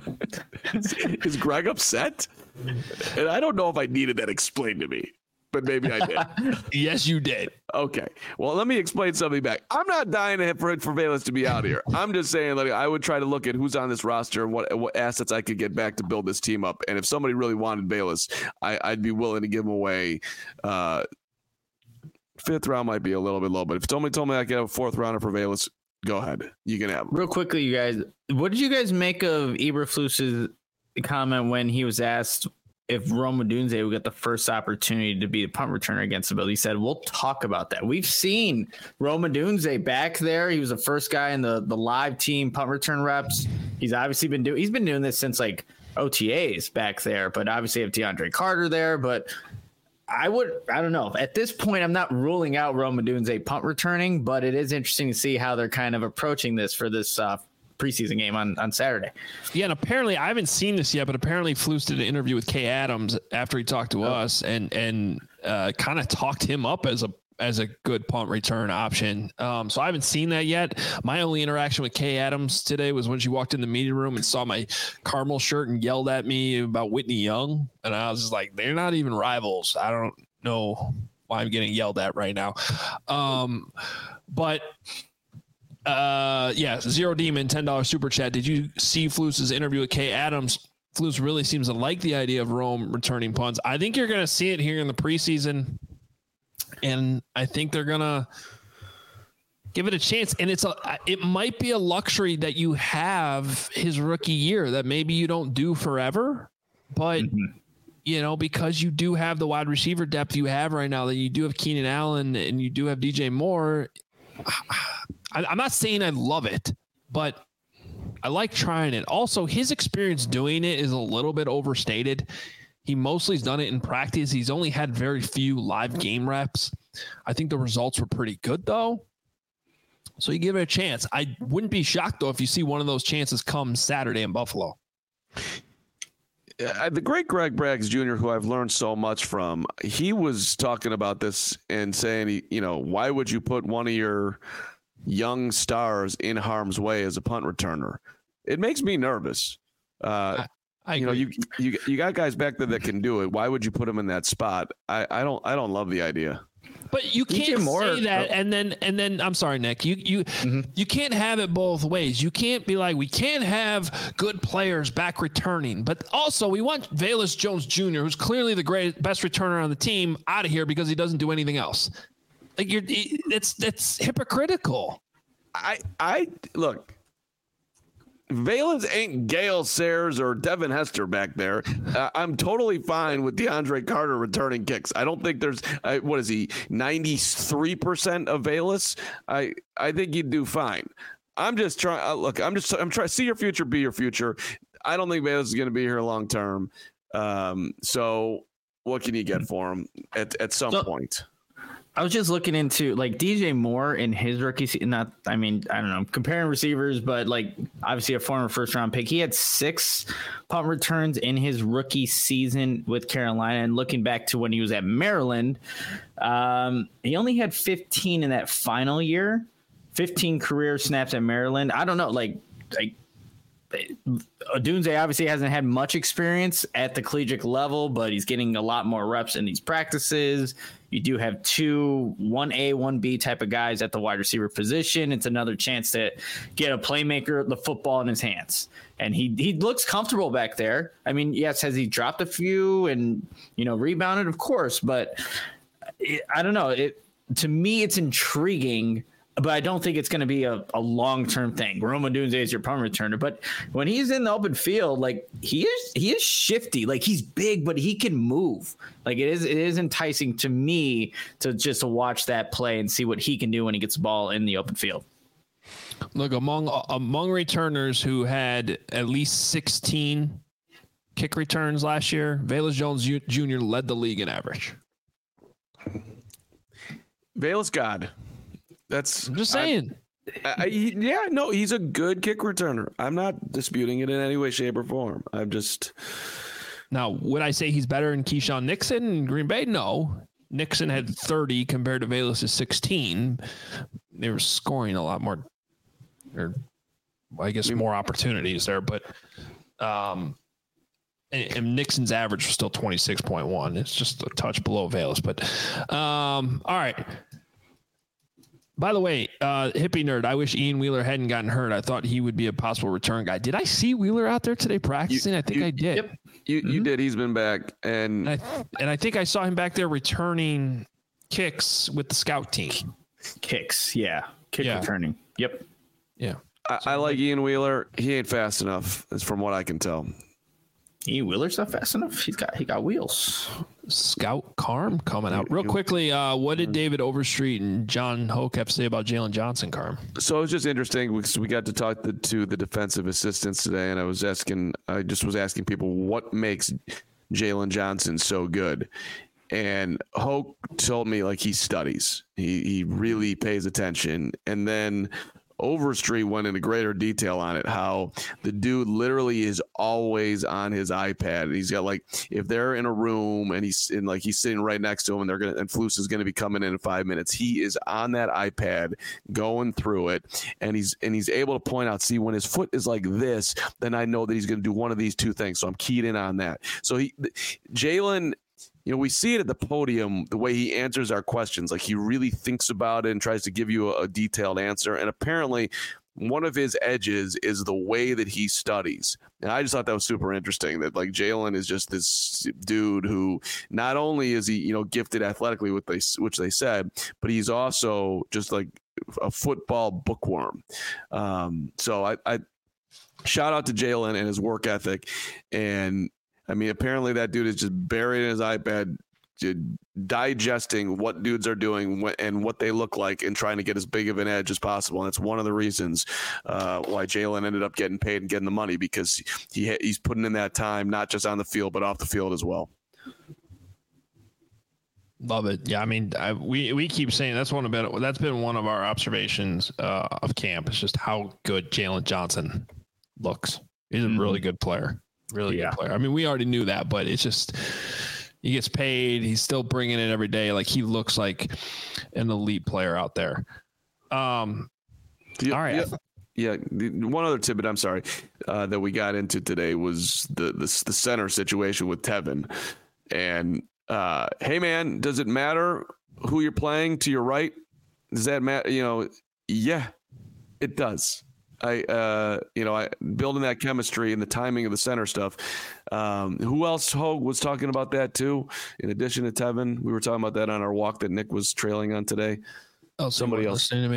Is Greg upset? And I don't know if I needed that explained to me, but maybe I did. Yes, you did. Okay. Well, let me explain something back. I'm not dying to hit for for Velus to be out here. I'm just saying, like, I would try to look at who's on this roster, what what assets I could get back to build this team up, and if somebody really wanted Velus, I, I'd be willing to give him away. Uh, fifth round might be a little bit low, but if somebody told me I could have a fourth rounder for Velus, go ahead. You can have him. Real quickly, you guys, what did you guys make of Eberflus's comment when he was asked if Rome Odunze would get the first opportunity to be a punt returner against the Bills? He said, we'll talk about that. We've seen Rome Odunze back there. He was the first guy in the, the live team punt return reps. He's obviously been doing, he's been doing this since like O T As back there, but obviously have DeAndre Carter there. But I would, I don't know. At this point, I'm not ruling out Rome Odunze punt returning, but it is interesting to see how they're kind of approaching this for this uh, preseason game on, on Saturday. Yeah, and apparently I haven't seen this yet, but apparently Flus did an interview with Kay Adams after he talked to oh. us and and uh, kind of talked him up as a as a good punt return option. Um, so I haven't seen that yet. My only interaction with Kay Adams today was when she walked in the meeting room and saw my Carmel shirt and yelled at me about Whitney Young, and I was just like, they're not even rivals. I don't know why I'm getting yelled at right now. Um, but. Uh, yeah, Zero Demon, ten dollars super chat. Did you see Flus's interview with Kay Adams? Flus really seems to like the idea of Rome returning punts. I think you're going to see it here in the preseason, and I think they're going to give it a chance. And it's a, it might be a luxury that you have his rookie year that maybe you don't do forever, but mm-hmm. you know, because you do have the wide receiver depth you have right now, that you do have Keenan Allen and you do have D J Moore. I'm not saying I love it, but I like trying it. Also, his experience doing it is a little bit overstated. He mostly has done it in practice. He's only had very few live game reps. I think the results were pretty good, though. So you give it a chance. I wouldn't be shocked, though, if you see one of those chances come Saturday in Buffalo. Uh, the great Greg Braggs Junior, who I've learned so much from, he was talking about this and saying, he, you know, why would you put one of your young stars in harm's way as a punt returner? It makes me nervous. Uh, I, I you know, you, you you got guys back there that can do it. Why would you put them in that spot? I, I don't I don't love the idea. But you can't say that, and then and then I'm sorry, Nick. You you mm-hmm. you can't have it both ways. You can't be like, we can't have good players back returning, but also we want Velus Jones Junior, who's clearly the great best returner on the team, out of here because he doesn't do anything else. Like you're, it's that's hypocritical. I I look. Valens ain't Gale Sayers or Devin Hester back there. Uh, I'm totally fine with DeAndre Carter returning kicks. I don't think there's uh, what is he ninety-three percent of Valens. I I think he'd do fine. I'm just trying. Uh, look, I'm just I'm trying to see your future, be your future. I don't think Valens is going to be here long term. Um, so what can you get for him at at some so, point? I was just looking into like D J Moore in his rookie season. Not, I mean, I don't know, comparing receivers, but like obviously a former first round pick. He had six punt returns in his rookie season with Carolina. And looking back to when he was at Maryland, um, he only had fifteen in that final year, fifteen career snaps at Maryland. I don't know, like, like, Odunze obviously hasn't had much experience at the collegiate level, but he's getting a lot more reps in these practices. You do have two one A, one B type of guys at the wide receiver position. It's another chance to get a playmaker, the football in his hands. And he he looks comfortable back there. I mean, yes, has he dropped a few and, you know, rebounded? Of course. But it, I don't know. It to me, it's intriguing. But I don't think it's going to be a, a long-term thing. Rome Odunze is your punt returner. But when he's in the open field, like he is he is shifty. Like he's big, but he can move. Like it is it is enticing to me to just to watch that play and see what he can do when he gets the ball in the open field. Look, among among returners who had at least sixteen kick returns last year, Velus Jones Junior led the league in average. Velus God. That's I'm just saying. I, I, yeah, no, he's a good kick returner. I'm not disputing it in any way, shape, or form. I'm just. Now, would I say he's better than Keyshawn Nixon in Green Bay? No. Nixon had thirty compared to Velus' sixteen. They were scoring a lot more, or I guess more opportunities there. But um, and, and Nixon's average was still twenty-six point one. It's just a touch below Velus. But um, all right. By the way, uh, hippie nerd, I wish Ian Wheeler hadn't gotten hurt. I thought he would be a possible return guy. Did I see Wheeler out there today practicing? You, I think you, I did. Yep. You mm-hmm. you did. He's been back. And and I, and I think I saw him back there returning kicks with the scout team. Kicks, yeah. Kick yeah. returning. Yep. Yeah. I, I like Ian Wheeler. He ain't fast enough, is from what I can tell. Ian Wheeler's not fast enough. He's got he got wheels. Scout Carm coming out real quickly. Uh, what did David Overstreet and John Hoke have to say about Jalen Johnson, Carm? So it was just interesting because we got to talk to, to the defensive assistants today, and I was asking, I just was asking people what makes Jalen Johnson so good. And Hoke told me like he studies, he he really pays attention, and then Overstreet went into greater detail on it, how the dude literally is always on his iPad. He's got like, if they're in a room and he's in like, he's sitting right next to him and they're going to, and Flus is going to be coming in in five minutes. He is on that iPad going through it. And he's, and he's able to point out, see, when his foot is like this, then I know that he's going to do one of these two things. So I'm keyed in on that. So he, Jalen, you know, we see it at the podium, the way he answers our questions. Like he really thinks about it and tries to give you a, a detailed answer. And apparently one of his edges is the way that he studies. And I just thought that was super interesting that like Jalen is just this dude who not only is he, you know, gifted athletically, with they, which they said, but he's also just like a football bookworm. Um, so I, I shout out to Jalen and his work ethic. And I mean, apparently that dude is just buried in his iPad, digesting what dudes are doing and what they look like and trying to get as big of an edge as possible. And it's one of the reasons uh, why Jalen ended up getting paid and getting the money, because he he's putting in that time, not just on the field, but off the field as well. Love it. Yeah, I mean, I, we we keep saying that's one of been, that's been one of our observations uh, of camp. It's just how good Jalen Johnson looks. He's a mm-hmm. really good player. Really yeah. good player. I mean, we already knew that, but it's just he gets paid. He's still bringing it every day. Like he looks like an elite player out there. Um, yeah, all right. Yeah. yeah. One other tidbit, I'm sorry, uh, that we got into today was the, the the center situation with Tevin. And uh, hey, man, does it matter who you're playing to your right? Does that matter? You know, yeah, it does. I, uh, you know, I building that chemistry and the timing of the center stuff. Um, who else Hogue was talking about that too? In addition to Tevin, we were talking about that on our walk that Nick was trailing on today. Oh, somebody else listening to me.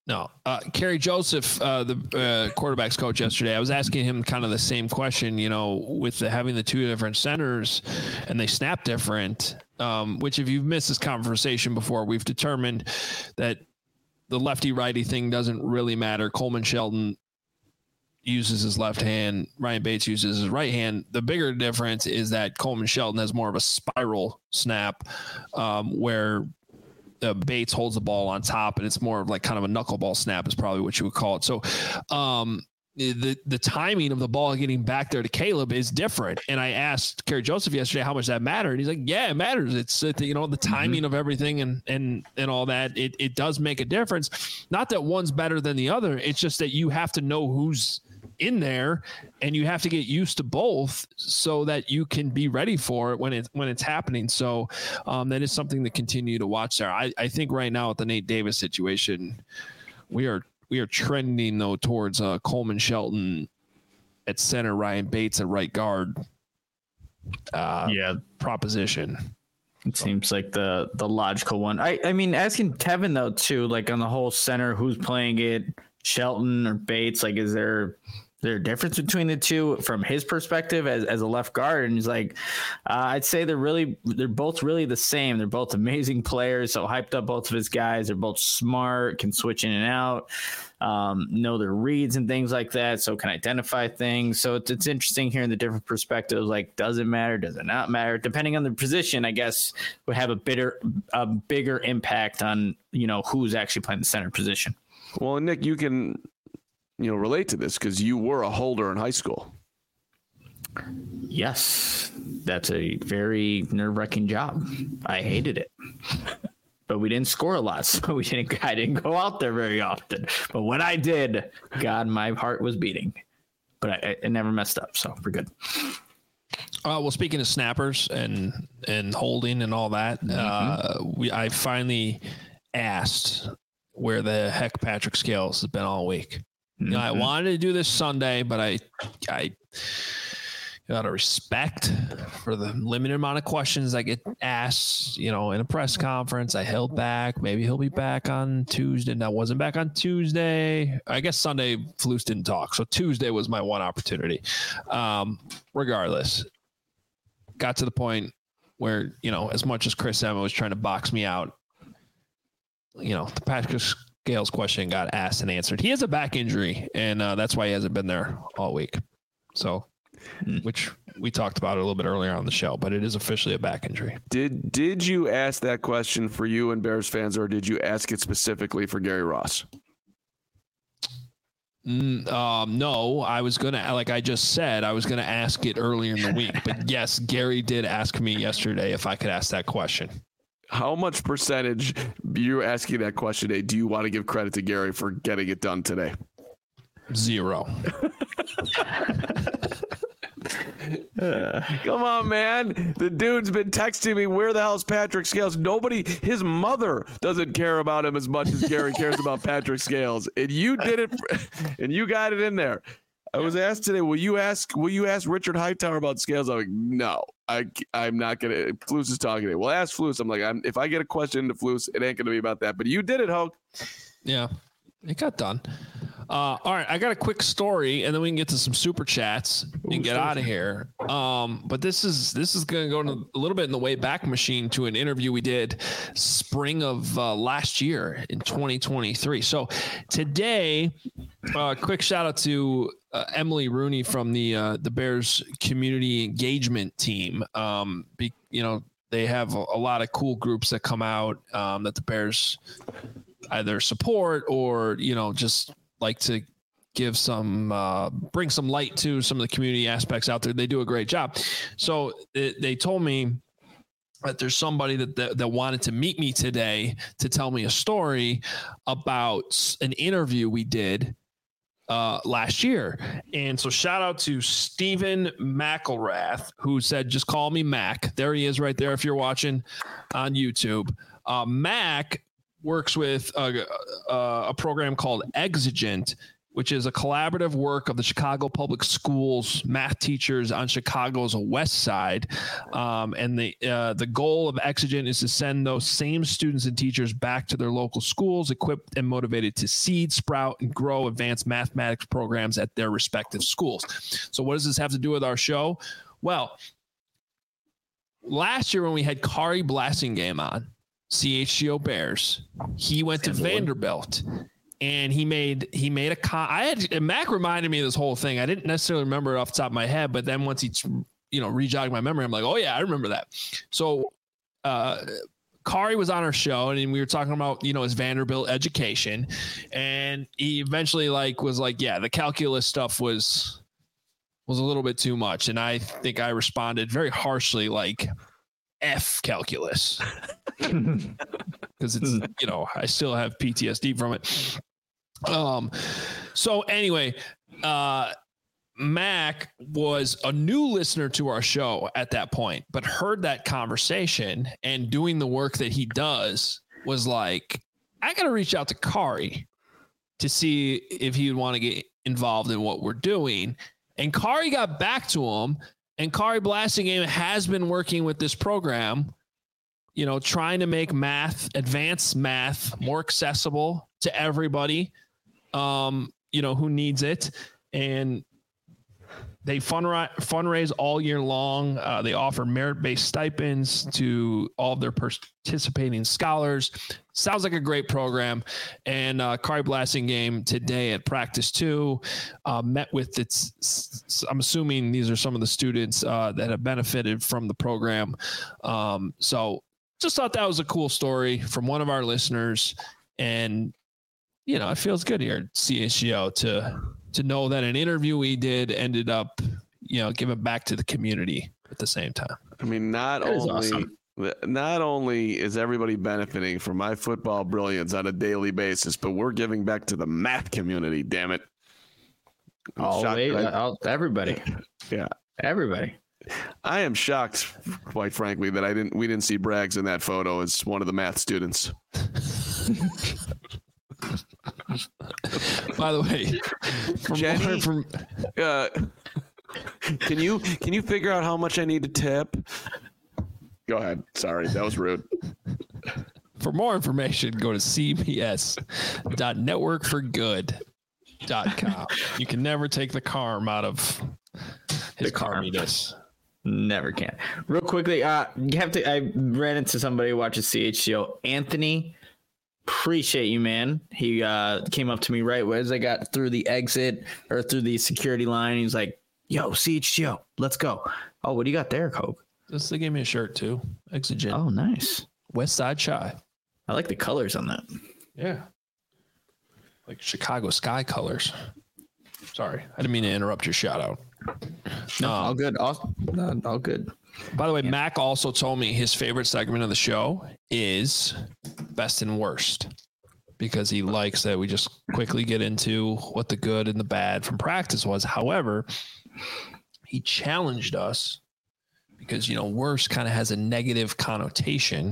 No. Uh, Kerry Joseph, uh, the uh, quarterback's coach yesterday, I was asking him kind of the same question, you know, with the, having the two different centers and they snap different, um, which if you've missed this conversation before, we've determined that the lefty-righty thing doesn't really matter. Coleman Shelton uses his left hand. Ryan Bates uses his right hand. The bigger difference is that Coleman Shelton has more of a spiral snap um, where Uh, Bates holds the ball on top, and it's more of like kind of a knuckleball snap is probably what you would call it. So um, the the timing of the ball getting back there to Caleb is different. And I asked Kerry Joseph yesterday how much that mattered. And he's like, yeah, it matters. It's, uh, you know, the timing mm-hmm. of everything and and and all that. It it does make a difference. Not that one's better than the other. It's just that you have to know who's in there and you have to get used to both so that you can be ready for it when it's when it's happening. So um, that is something to continue to watch there. I, I think right now with the Nate Davis situation, we are we are trending though towards uh, Coleman Shelton at center, Ryan Bates at right guard. Uh, yeah, proposition. It seems like the the logical one. I I mean, asking Kevin though too, like on the whole center, who's playing it, Shelton or Bates? Like, is there Is there a difference between the two from his perspective as, as a left guard? And he's like, uh, I'd say they're really, they're both really the same. They're both amazing players. So hyped up both of his guys. They're both smart, can switch in and out, um, know their reads and things like that. So can identify things. So it's, it's interesting hearing the different perspectives. Like, does it matter? Does it not matter? Depending on the position, I guess would have a bitter, a bigger impact on, you know, who's actually playing the center position. Well, Nick, you can, you know, relate to this because you were a holder in high school. Yes, that's a very nerve-wracking job. I hated it, but we didn't score a lot, so we didn't. I didn't go out there very often. But when I did, God, my heart was beating. But I, I never messed up, so we're good. Uh, well, speaking of snappers and and holding and all that, mm-hmm. uh, we I finally asked where the heck Patrick Scales has been all week. You know, I wanted to do this Sunday, but I, I, out of respect for the limited amount of questions I get asked, you know, in a press conference, I held back. Maybe he'll be back on Tuesday. And I wasn't back on Tuesday. I guess Sunday, Flus didn't talk. So Tuesday was my one opportunity. Um, regardless, got to the point where, you know, as much as Chris Emma was trying to box me out, you know, the Patrick Scales question got asked and answered. He has a back injury, and uh, that's why he hasn't been there all week. So, which we talked about a little bit earlier on the show, but it is officially a back injury. Did did you ask that question for you and Bears fans, or did you ask it specifically for Gary Ross? Mm, um, no, I was going to, like I just said, I was going to ask it earlier in the week. But yes, Gary did ask me yesterday if I could ask that question. How much percentage, you're asking that question today, do you want to give credit to Gary for getting it done today? Zero. uh, come on, man. The dude's been texting me, where the hell's Patrick Scales? Nobody, his mother doesn't care about him as much as Gary cares about Patrick Scales. And you did it, and you got it in there. I was asked today, will you ask will you ask Richard Hightower about Scales? I'm like, no, I, I'm not going to. Flus is talking to me. Well, ask Flus. I'm like, I'm, if I get a question to Flus, it ain't going to be about that. But you did it, Hoke. Yeah, it got done. Uh, all right, I got a quick story, and then we can get to some super chats and Ooh, get out of here. Um, but this is this is going to go in a little bit in the way back machine to an interview we did spring of uh, last year in twenty twenty-three. So today, uh, quick shout out to uh, Emily Rooney from the uh, the Bears community engagement team. Um, be, you know, they have a, a lot of cool groups that come out um, that the Bears either support or, you know, just like to give some, uh, bring some light to some of the community aspects out there. They do a great job. So it, they told me that there's somebody that, that that wanted to meet me today to tell me a story about an interview we did uh, last year. And so shout out to Stephen McElrath, who said, just call me Mac. There he is right there if you're watching on YouTube. Uh, Mac works with a, a, a program called Exigent, which is a collaborative work of the Chicago Public Schools math teachers on Chicago's west side. Um, and the uh, the goal of Exigent is to send those same students and teachers back to their local schools, equipped and motivated to seed, sprout, and grow advanced mathematics programs at their respective schools. So what does this have to do with our show? Well, last year when we had Kari Blasingame on, C H G O Bears, he went to Vanderbilt. And he made he made a con. I had Mac reminded me of this whole thing. I didn't necessarily remember it off the top of my head, but then once he, you know, rejogged my memory, I'm like, oh yeah, I remember that. So, uh, Kari was on our show, and we were talking about, you know, his Vanderbilt education, and he eventually like was like, yeah, the calculus stuff was was a little bit too much, and I think I responded very harshly, like, F calculus, because it's, you know, I still have P T S D from it. Um, so anyway, uh, Mac was a new listener to our show at that point, but heard that conversation and doing the work that he does was like, I got to reach out to Kari to see if he would want to get involved in what we're doing. And Kari got back to him, and Kari Blasingame has been working with this program, you know, trying to make math, advanced math, more accessible to everybody, um, you know, who needs it. And they fundraise, fundraise all year long. Uh, they offer merit-based stipends to all of their participating scholars. Sounds like a great program. And uh, Kari Blasingame today at practice two uh, met with its, I'm assuming these are some of the students uh, that have benefited from the program. Um, so just thought that was a cool story from one of our listeners. And, you know, it feels good here at C H G O to to know that an interview we did ended up, you know, giving back to the community at the same time. I mean, not That is only awesome. not only is everybody benefiting from my football brilliance on a daily basis, but we're giving back to the math community. Damn it! I'm shocked Always, that I- uh, everybody, yeah, everybody. I am shocked, quite frankly, that I didn't we didn't see Braggs in that photo as one of the math students. By the way, from Jenny? from Uh, can you can you figure out how much I need to tip? Go ahead. Sorry, that was rude. For more information, go to c b s dot network for good dot com. You can never take the carm out of his The carm. carminess. Never can. Real quickly, uh, you have to. I ran into somebody who watches C H G O. Anthony, appreciate you, man. He uh, came up to me right as I got through the exit or through the security line. He's like, "Yo, C H G O, let's go." Oh, what do you got there, Coke? This they gave me a shirt too. Exigent. Oh, nice. West Side Shy. I like the colors on that. Yeah. Like Chicago sky colors. Sorry, I didn't mean to interrupt your shout out. No, Um, all good. All, uh, all good. By the way, Mac also told me his favorite segment of the show is best and worst, because he likes that we just quickly get into what the good and the bad from practice was. However, he challenged us because, you know, worst kind of has a negative connotation.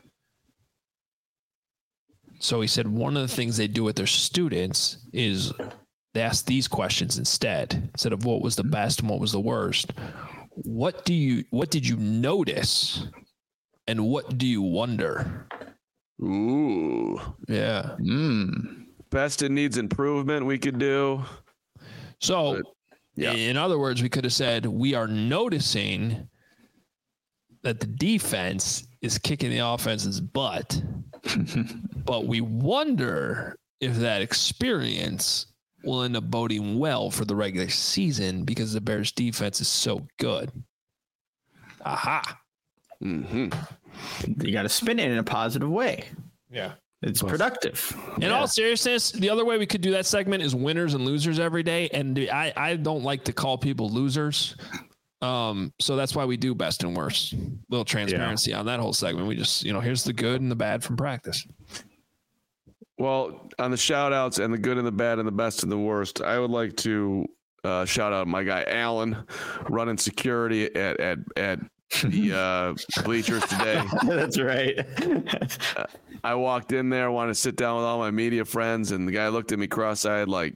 So he said one of the things they do with their students is they ask these questions instead, instead of what was the best and what was the worst. What do you, what did you notice and what do you wonder? Ooh, Yeah. Mm. best it needs improvement. We could do. So But, yeah. in other words, we could have said, we are noticing that the defense is kicking the offense's butt, but we wonder if that experience will end up boding well for the regular season because the Bears defense is so good. Aha. Mm-hmm. You got to spin it in a positive way. Yeah. It's productive. In Yeah. all seriousness, the other way we could do that segment is winners and losers every day. And I, I don't like to call people losers. Um, so that's why we do best and worst. Little transparency on that whole segment. We just, you know, here's the good and the bad from practice. Well, on the shout outs and the good and the bad and the best and the worst, I would like to uh, shout out my guy Alan, running security at at at the uh, bleachers today. That's right. I walked in there, wanted to sit down with all my media friends, and the guy looked at me cross-eyed like,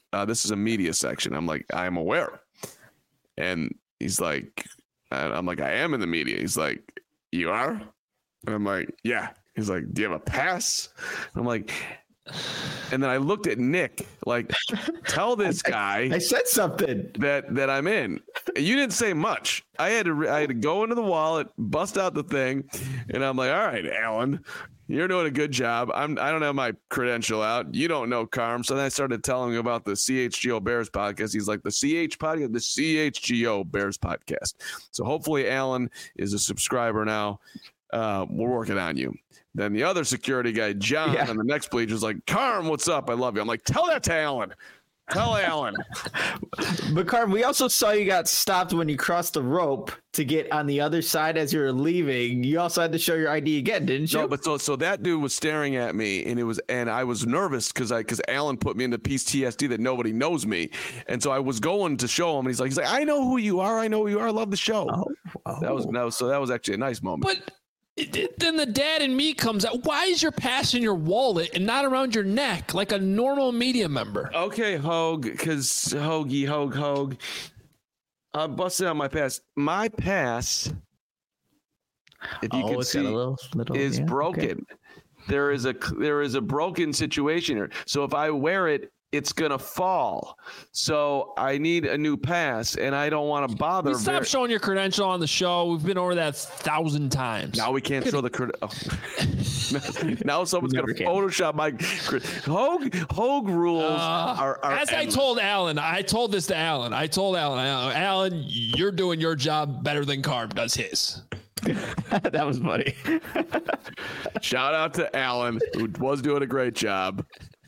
uh, this is a media section. I'm like, I am aware. And he's like, I'm like, I am in the media. He's like, you are? And I'm like, yeah. He's like, do you have a pass? I'm like, and then I looked at Nick, like, tell this guy. I, I said something that that I'm in. You didn't say much. I had to I had to go into the wallet, bust out the thing, and I'm like, all right, Alan, you're doing a good job. I'm I don't have my credential out. You don't know Carm. So then I started telling him about the C H G O Bears podcast. He's like, the C H podcast, the C H G O Bears podcast. So hopefully Alan is a subscriber now. Uh, we're working on you. Then the other security guy, John, yeah. on the next bleacher is like, Carm, what's up? I love you. I'm like, tell that to Alan. Tell Alan. But Carm, we also saw you got stopped when you crossed the rope to get on the other side as you were leaving. You also had to show your I D again, didn't you? No, but so so that dude was staring at me, and it was, and I was nervous because I because Alan put me into P T S D that nobody knows me, and so I was going to show him, and he's like, he's like, I know who you are. I know who you are. I love the show. Oh, oh. That was that was so that was actually a nice moment. But. Then the dad in me comes out. Why is your pass in your wallet and not around your neck like a normal media member? Okay, Hogue, because Hoagie, Hogue, Hogue. I busted out my pass. My pass, if you oh, can it's see, got a little, little, is yeah, broken. Okay. There is a there is a broken situation here. So if I wear it, it's gonna fall. So I need a new pass, and I don't want to bother. Stop very- showing your credential on the show. We've been over that a thousand times. Now we can't show the credential. Oh. Now someone's gonna can. Photoshop my Hogue. Hogue rules uh, are, are. As endless. I told Alan, I told this to Alan. I told Alan, Alan, you're doing your job better than Carm does his. That was funny. Shout out to Alan, who was doing a great job.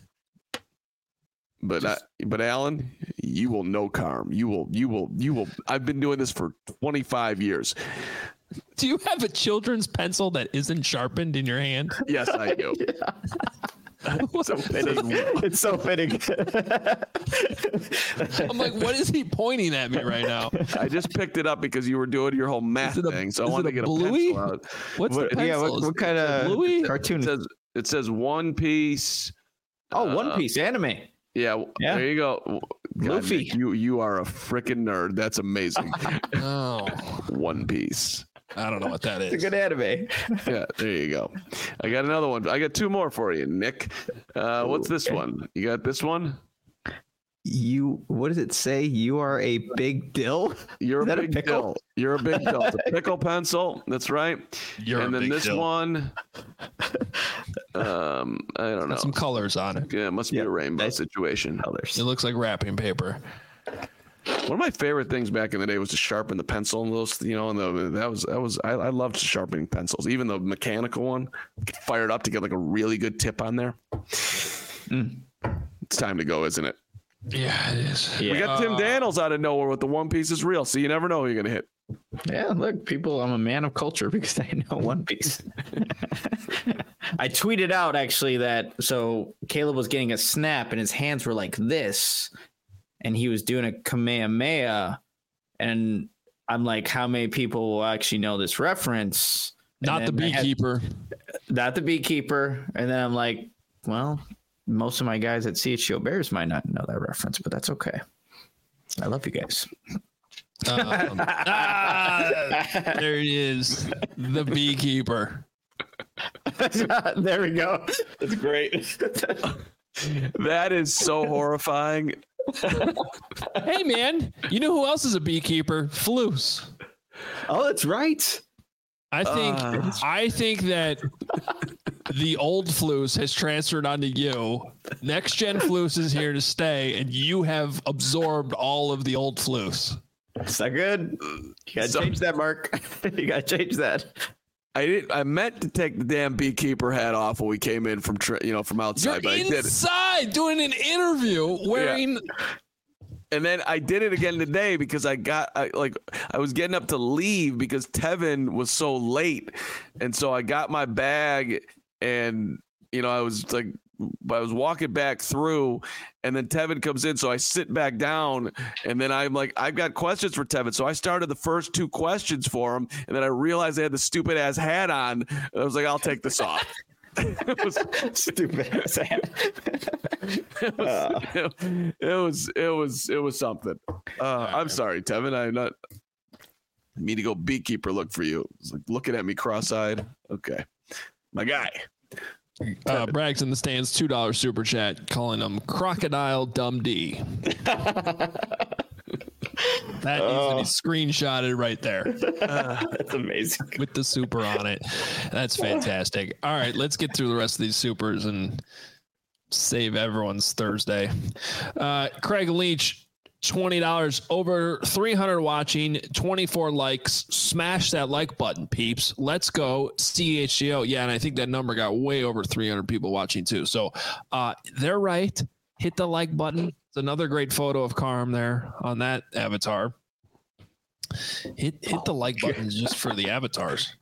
But Just, I, but Alan, you will know Carm. You will you will you will. I've been doing this for twenty-five years. Do you have a children's pencil that isn't sharpened in your hand? Yes, I do. It's so fitting. It's so fitting. I'm like, what is he pointing at me right now? I just picked it up because you were doing your whole math a, thing, so I wanted to get Bluey? a pencil out. What's what, the pencil? Yeah, what, what kind of Bluey? cartoon? It says, it says One Piece. Oh, uh, One Piece anime. Yeah, yeah, there you go. God, Luffy. Nick, you you are a freaking nerd. That's amazing. Oh, One Piece. I don't know what that is. It's a good anime. Yeah, there you go. I got another one. I got two more for you, Nick. Uh, what's this okay. one? You got this one? You, what does it say? You are a big dill? You're Is a that big a pickle? dill. You're a big dill. It's a pickle pencil. That's right. You're and a then big this dill. one, um, I don't know. Got some colors on it. Yeah, it must be yep. a rainbow Nice situation. Colors. It looks like wrapping paper. One of my favorite things back in the day was to sharpen the pencil and those, you know, and the, that was that was I, I loved sharpening pencils, even the mechanical one. Fire it up to get like a really good tip on there. Mm. It's time to go, isn't it? Yeah, it is. We Yeah. got Tim Uh, Daniels out of nowhere with the One Piece is real, so you never know who you're gonna hit. Yeah, look, people, I'm a man of culture because I know One Piece. I tweeted out actually that so Caleb was getting a snap and his hands were like this, and he was doing a Kamehameha, and I'm like, how many people will actually know this reference? And Not the beekeeper. Had, not the beekeeper. And then I'm like, well, most of my guys at C H G O Bears might not know that reference, but that's okay. I love you guys. Um, ah, there it is. The beekeeper. There we go. That's great. That is so horrifying. Hey, man, you know who else is a beekeeper? Floos. Oh, that's right. I think Uh. I think that the old Floos has transferred onto you. Next gen Floos is here to stay, and you have absorbed all of the old Floos. That's not good. You gotta So- change that, Mark. You gotta change that. I did. I meant to take the damn beekeeper hat off when we came in from, tra- you know, from You're outside, but I did it. inside doing an interview wearing. And then I did it again today because I got I, like I was getting up to leave because Tevin was so late, and so I got my bag and you know I was like I was walking back through, and then Tevin comes in, so I sit back down, and then I'm like I've got questions for Tevin, so I started the first two questions for him, and then I realized I had the stupid ass hat on, and I was like I'll take this off. it was stupid. it, was, uh. it, it was it was it was something. Uh, I'm sorry, Tevin. I'm not me to go beekeeper look for you. It's like looking at me cross-eyed. Okay, my guy. Uh, Braggs in the stands, two dollar super chat, calling him Crocodile Dumb D. That oh. needs to be screenshotted right there. Uh, That's amazing. With the super on it. That's fantastic. All right, let's get through the rest of these supers and save everyone's Thursday. Uh, Craig Leach, twenty dollars, over three hundred watching, twenty-four likes. Smash that like button, peeps. Let's go C H G O. Yeah, and I think that number got way over three hundred people watching too. So uh, they're right. Hit the like button. It's another great photo of Carm there on that avatar. Hit hit the like buttons just for the avatars.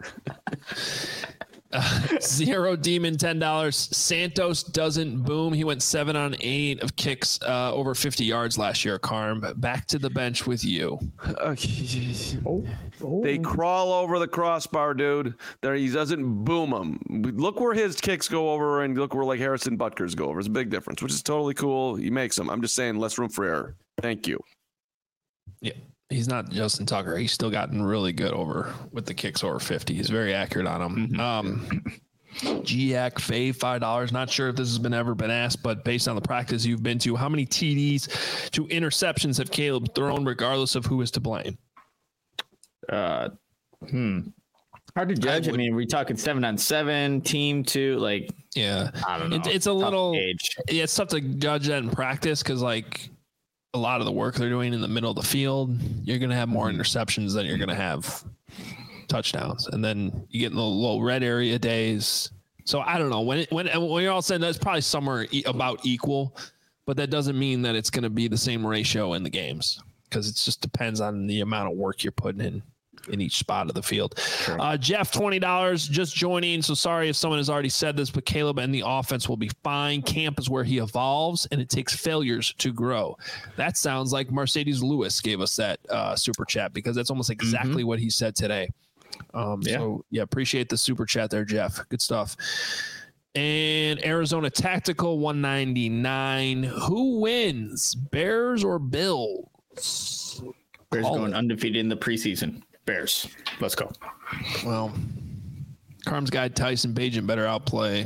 Uh, Zero Demon, ten dollars. Santos doesn't boom. He went seven on eight of kicks uh, over fifty yards last year, Carm. Back to the bench with you. Uh, oh, oh. They crawl over the crossbar, dude. There, he doesn't boom them. Look where his kicks go over and look where like Harrison Butker's go over. It's a big difference, which is totally cool. He makes them. I'm just saying less room for error. Thank you. Yeah. He's not Justin Tucker. He's still gotten really good over with the kicks over fifty. He's very accurate on them. Mm-hmm. Um, G A C Fave, five dollars. Not sure if this has been ever been asked, but based on the practice you've been to, how many T Ds to interceptions have Caleb thrown, regardless of who is to blame? Uh, hmm. Hard to judge. I, would, I mean, are we talking seven on seven, team two? Like, yeah, I don't know. It, it's a tough little. Age. Yeah, it's tough to judge that in practice because, like, a lot of the work they're doing in the middle of the field, you're going to have more interceptions than you're going to have touchdowns. And then you get in the little red area days. So I don't know when, it, when, when you're all saying that's probably somewhere e- about equal, but that doesn't mean that it's going to be the same ratio in the games because it just depends on the amount of work you're putting in in each spot of the field. Sure. Uh, Jeff, twenty dollars just joining. So sorry if someone has already said this, but Caleb and the offense will be fine. Camp is where he evolves and it takes failures to grow. That sounds like Mercedes Lewis gave us that uh, super chat because that's almost exactly mm-hmm. what he said today. Um, yeah. So yeah, appreciate the super chat there, Jeff. Good stuff. And Arizona Tactical one ninety-nine. Who wins, Bears or Bills? Bears Call going it. Undefeated in the preseason. Bears. Let's go. Well, Carm's guy Tyson Bagent better outplay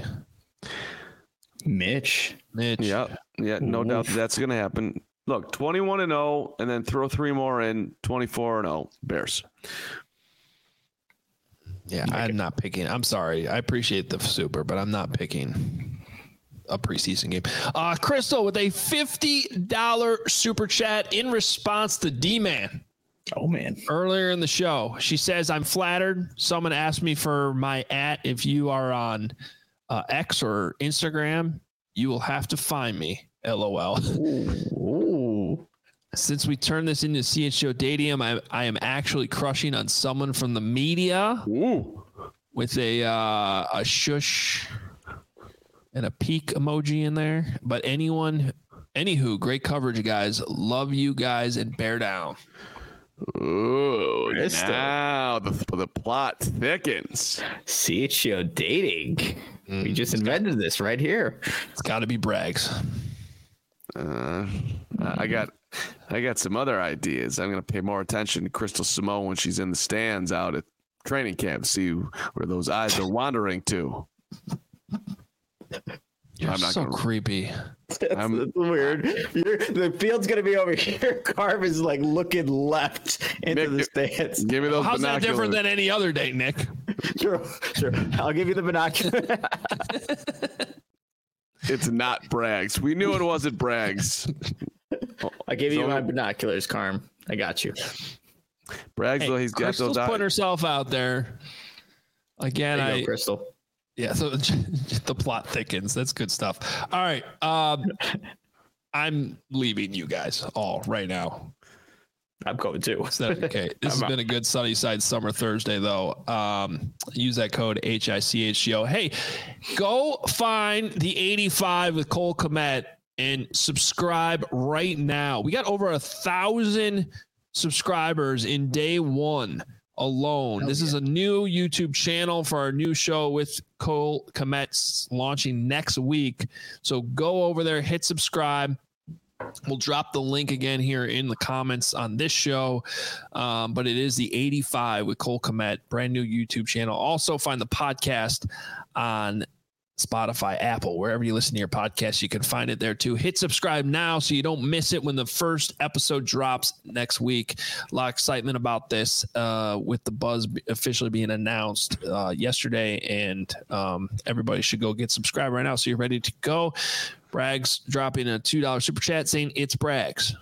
Mitch. Mitch. Yeah, yeah, no Oof. doubt that that's going to happen. Look, twenty-one and oh, and then throw three more in, twenty-four and oh, Bears. Yeah, I'm it. not picking. I'm sorry. I appreciate the super, but I'm not picking a preseason game. Uh, Crystal with a fifty dollars super chat in response to D-Man. Oh, man. Earlier in the show, she says, I'm flattered. Someone asked me for my at. If you are on uh, X or Instagram, you will have to find me. LOL. Ooh. Ooh. Since we turned this into C H O Dadium, I, I am actually crushing on someone from the media. Ooh. With a uh, a shush and a peek emoji in there. But anyone, anywho, great coverage, guys. Love you guys and bear down. Ooh, now the, the plot thickens. C H O dating. Mm, we just invented got, this right here. It's got to be Braggs. Uh, I got, I got some other ideas. I'm going to pay more attention to Crystal Simone when she's in the stands out at training camp. See where those eyes are wandering to. You're I'm not so gonna, creepy. That's, that's weird. You're, the field's gonna be over here. Carv is like looking left into Nick, the stands. Give me those. How's binoculars. that different than any other day, Nick? Sure, sure. I'll give you the binoculars. It's not Braggs. We knew it wasn't Braggs. I gave so, you my binoculars, Carm. I got you. Braggs, hey, well, he's got Crystal's those. Putting herself out there again. There you I go, Crystal. Yeah, so the plot thickens. That's good stuff. All right. Um, I'm leaving you guys all right now. I'm going too. Is that okay? This has been a good sunny side summer Thursday, though. Um, use that code H I C H G O. Hey, go find the eighty-five with Cole Kmet and subscribe right now. We got over a thousand subscribers in day one. alone. Hell this yeah. is a new YouTube channel for our new show with Cole Kmet launching next week. So go over there, hit subscribe. We'll drop the link again here in the comments on this show. Um, but it is the eighty-five with Cole Kmet, brand new YouTube channel. Also find the podcast on Spotify, Apple, wherever you listen to your podcast, you can find it there too. Hit subscribe now so you don't miss it when the first episode drops next week. A lot of excitement about this uh, with the buzz officially being announced uh, yesterday, and um, everybody should go get subscribed right now so you're ready to go. Braggs dropping a two dollars super chat saying it's Braggs.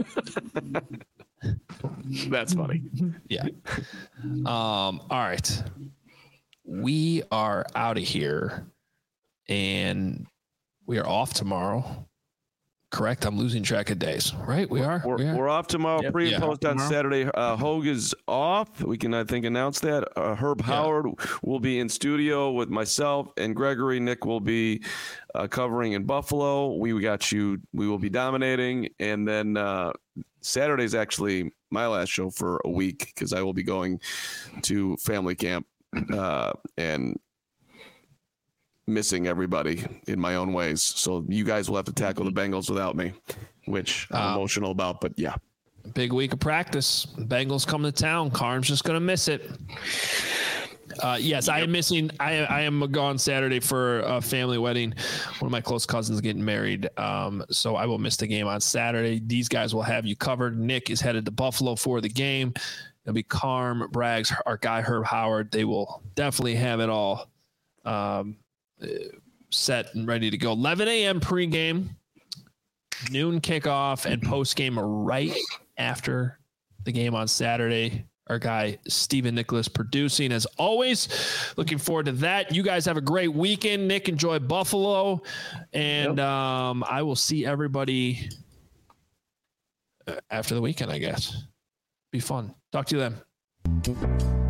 That's funny. Yeah. Um, all right. We are out of here. And we are off tomorrow. Correct? I'm losing track of days, right? We are. We're, we are. we're off tomorrow. Yep. Pre and Yeah. post on Tomorrow. Saturday. Uh, Hogue is off. We can, I think, announce that. Uh, Herb Yeah. Howard will be in studio with myself and Gregory. Nick will be uh, covering in Buffalo. We got you. We will be dominating. And then uh, Saturday's actually my last show for a week because I will be going to family camp uh, and missing everybody in my own ways. So you guys will have to tackle the Bengals without me, which I'm Um, emotional about, but yeah. Big week of practice. Bengals come to town. Carm's just going to miss it. Uh, yes, I am missing. I, I am gone Saturday for a family wedding. One of my close cousins getting married. Um, so I will miss the game on Saturday. These guys will have you covered. Nick is headed to Buffalo for the game. It'll be Carm, Braggs, our guy Herb Howard. They will definitely have it all um, set and ready to go. eleven a.m. pregame, noon kickoff, and postgame right after the game on Saturday. Our guy Stephen Nicholas producing as always. Looking forward to that. You guys have a great weekend. Nick, enjoy Buffalo, and Yep. um, I will see everybody after the weekend, I guess. Be fun. Talk to you then.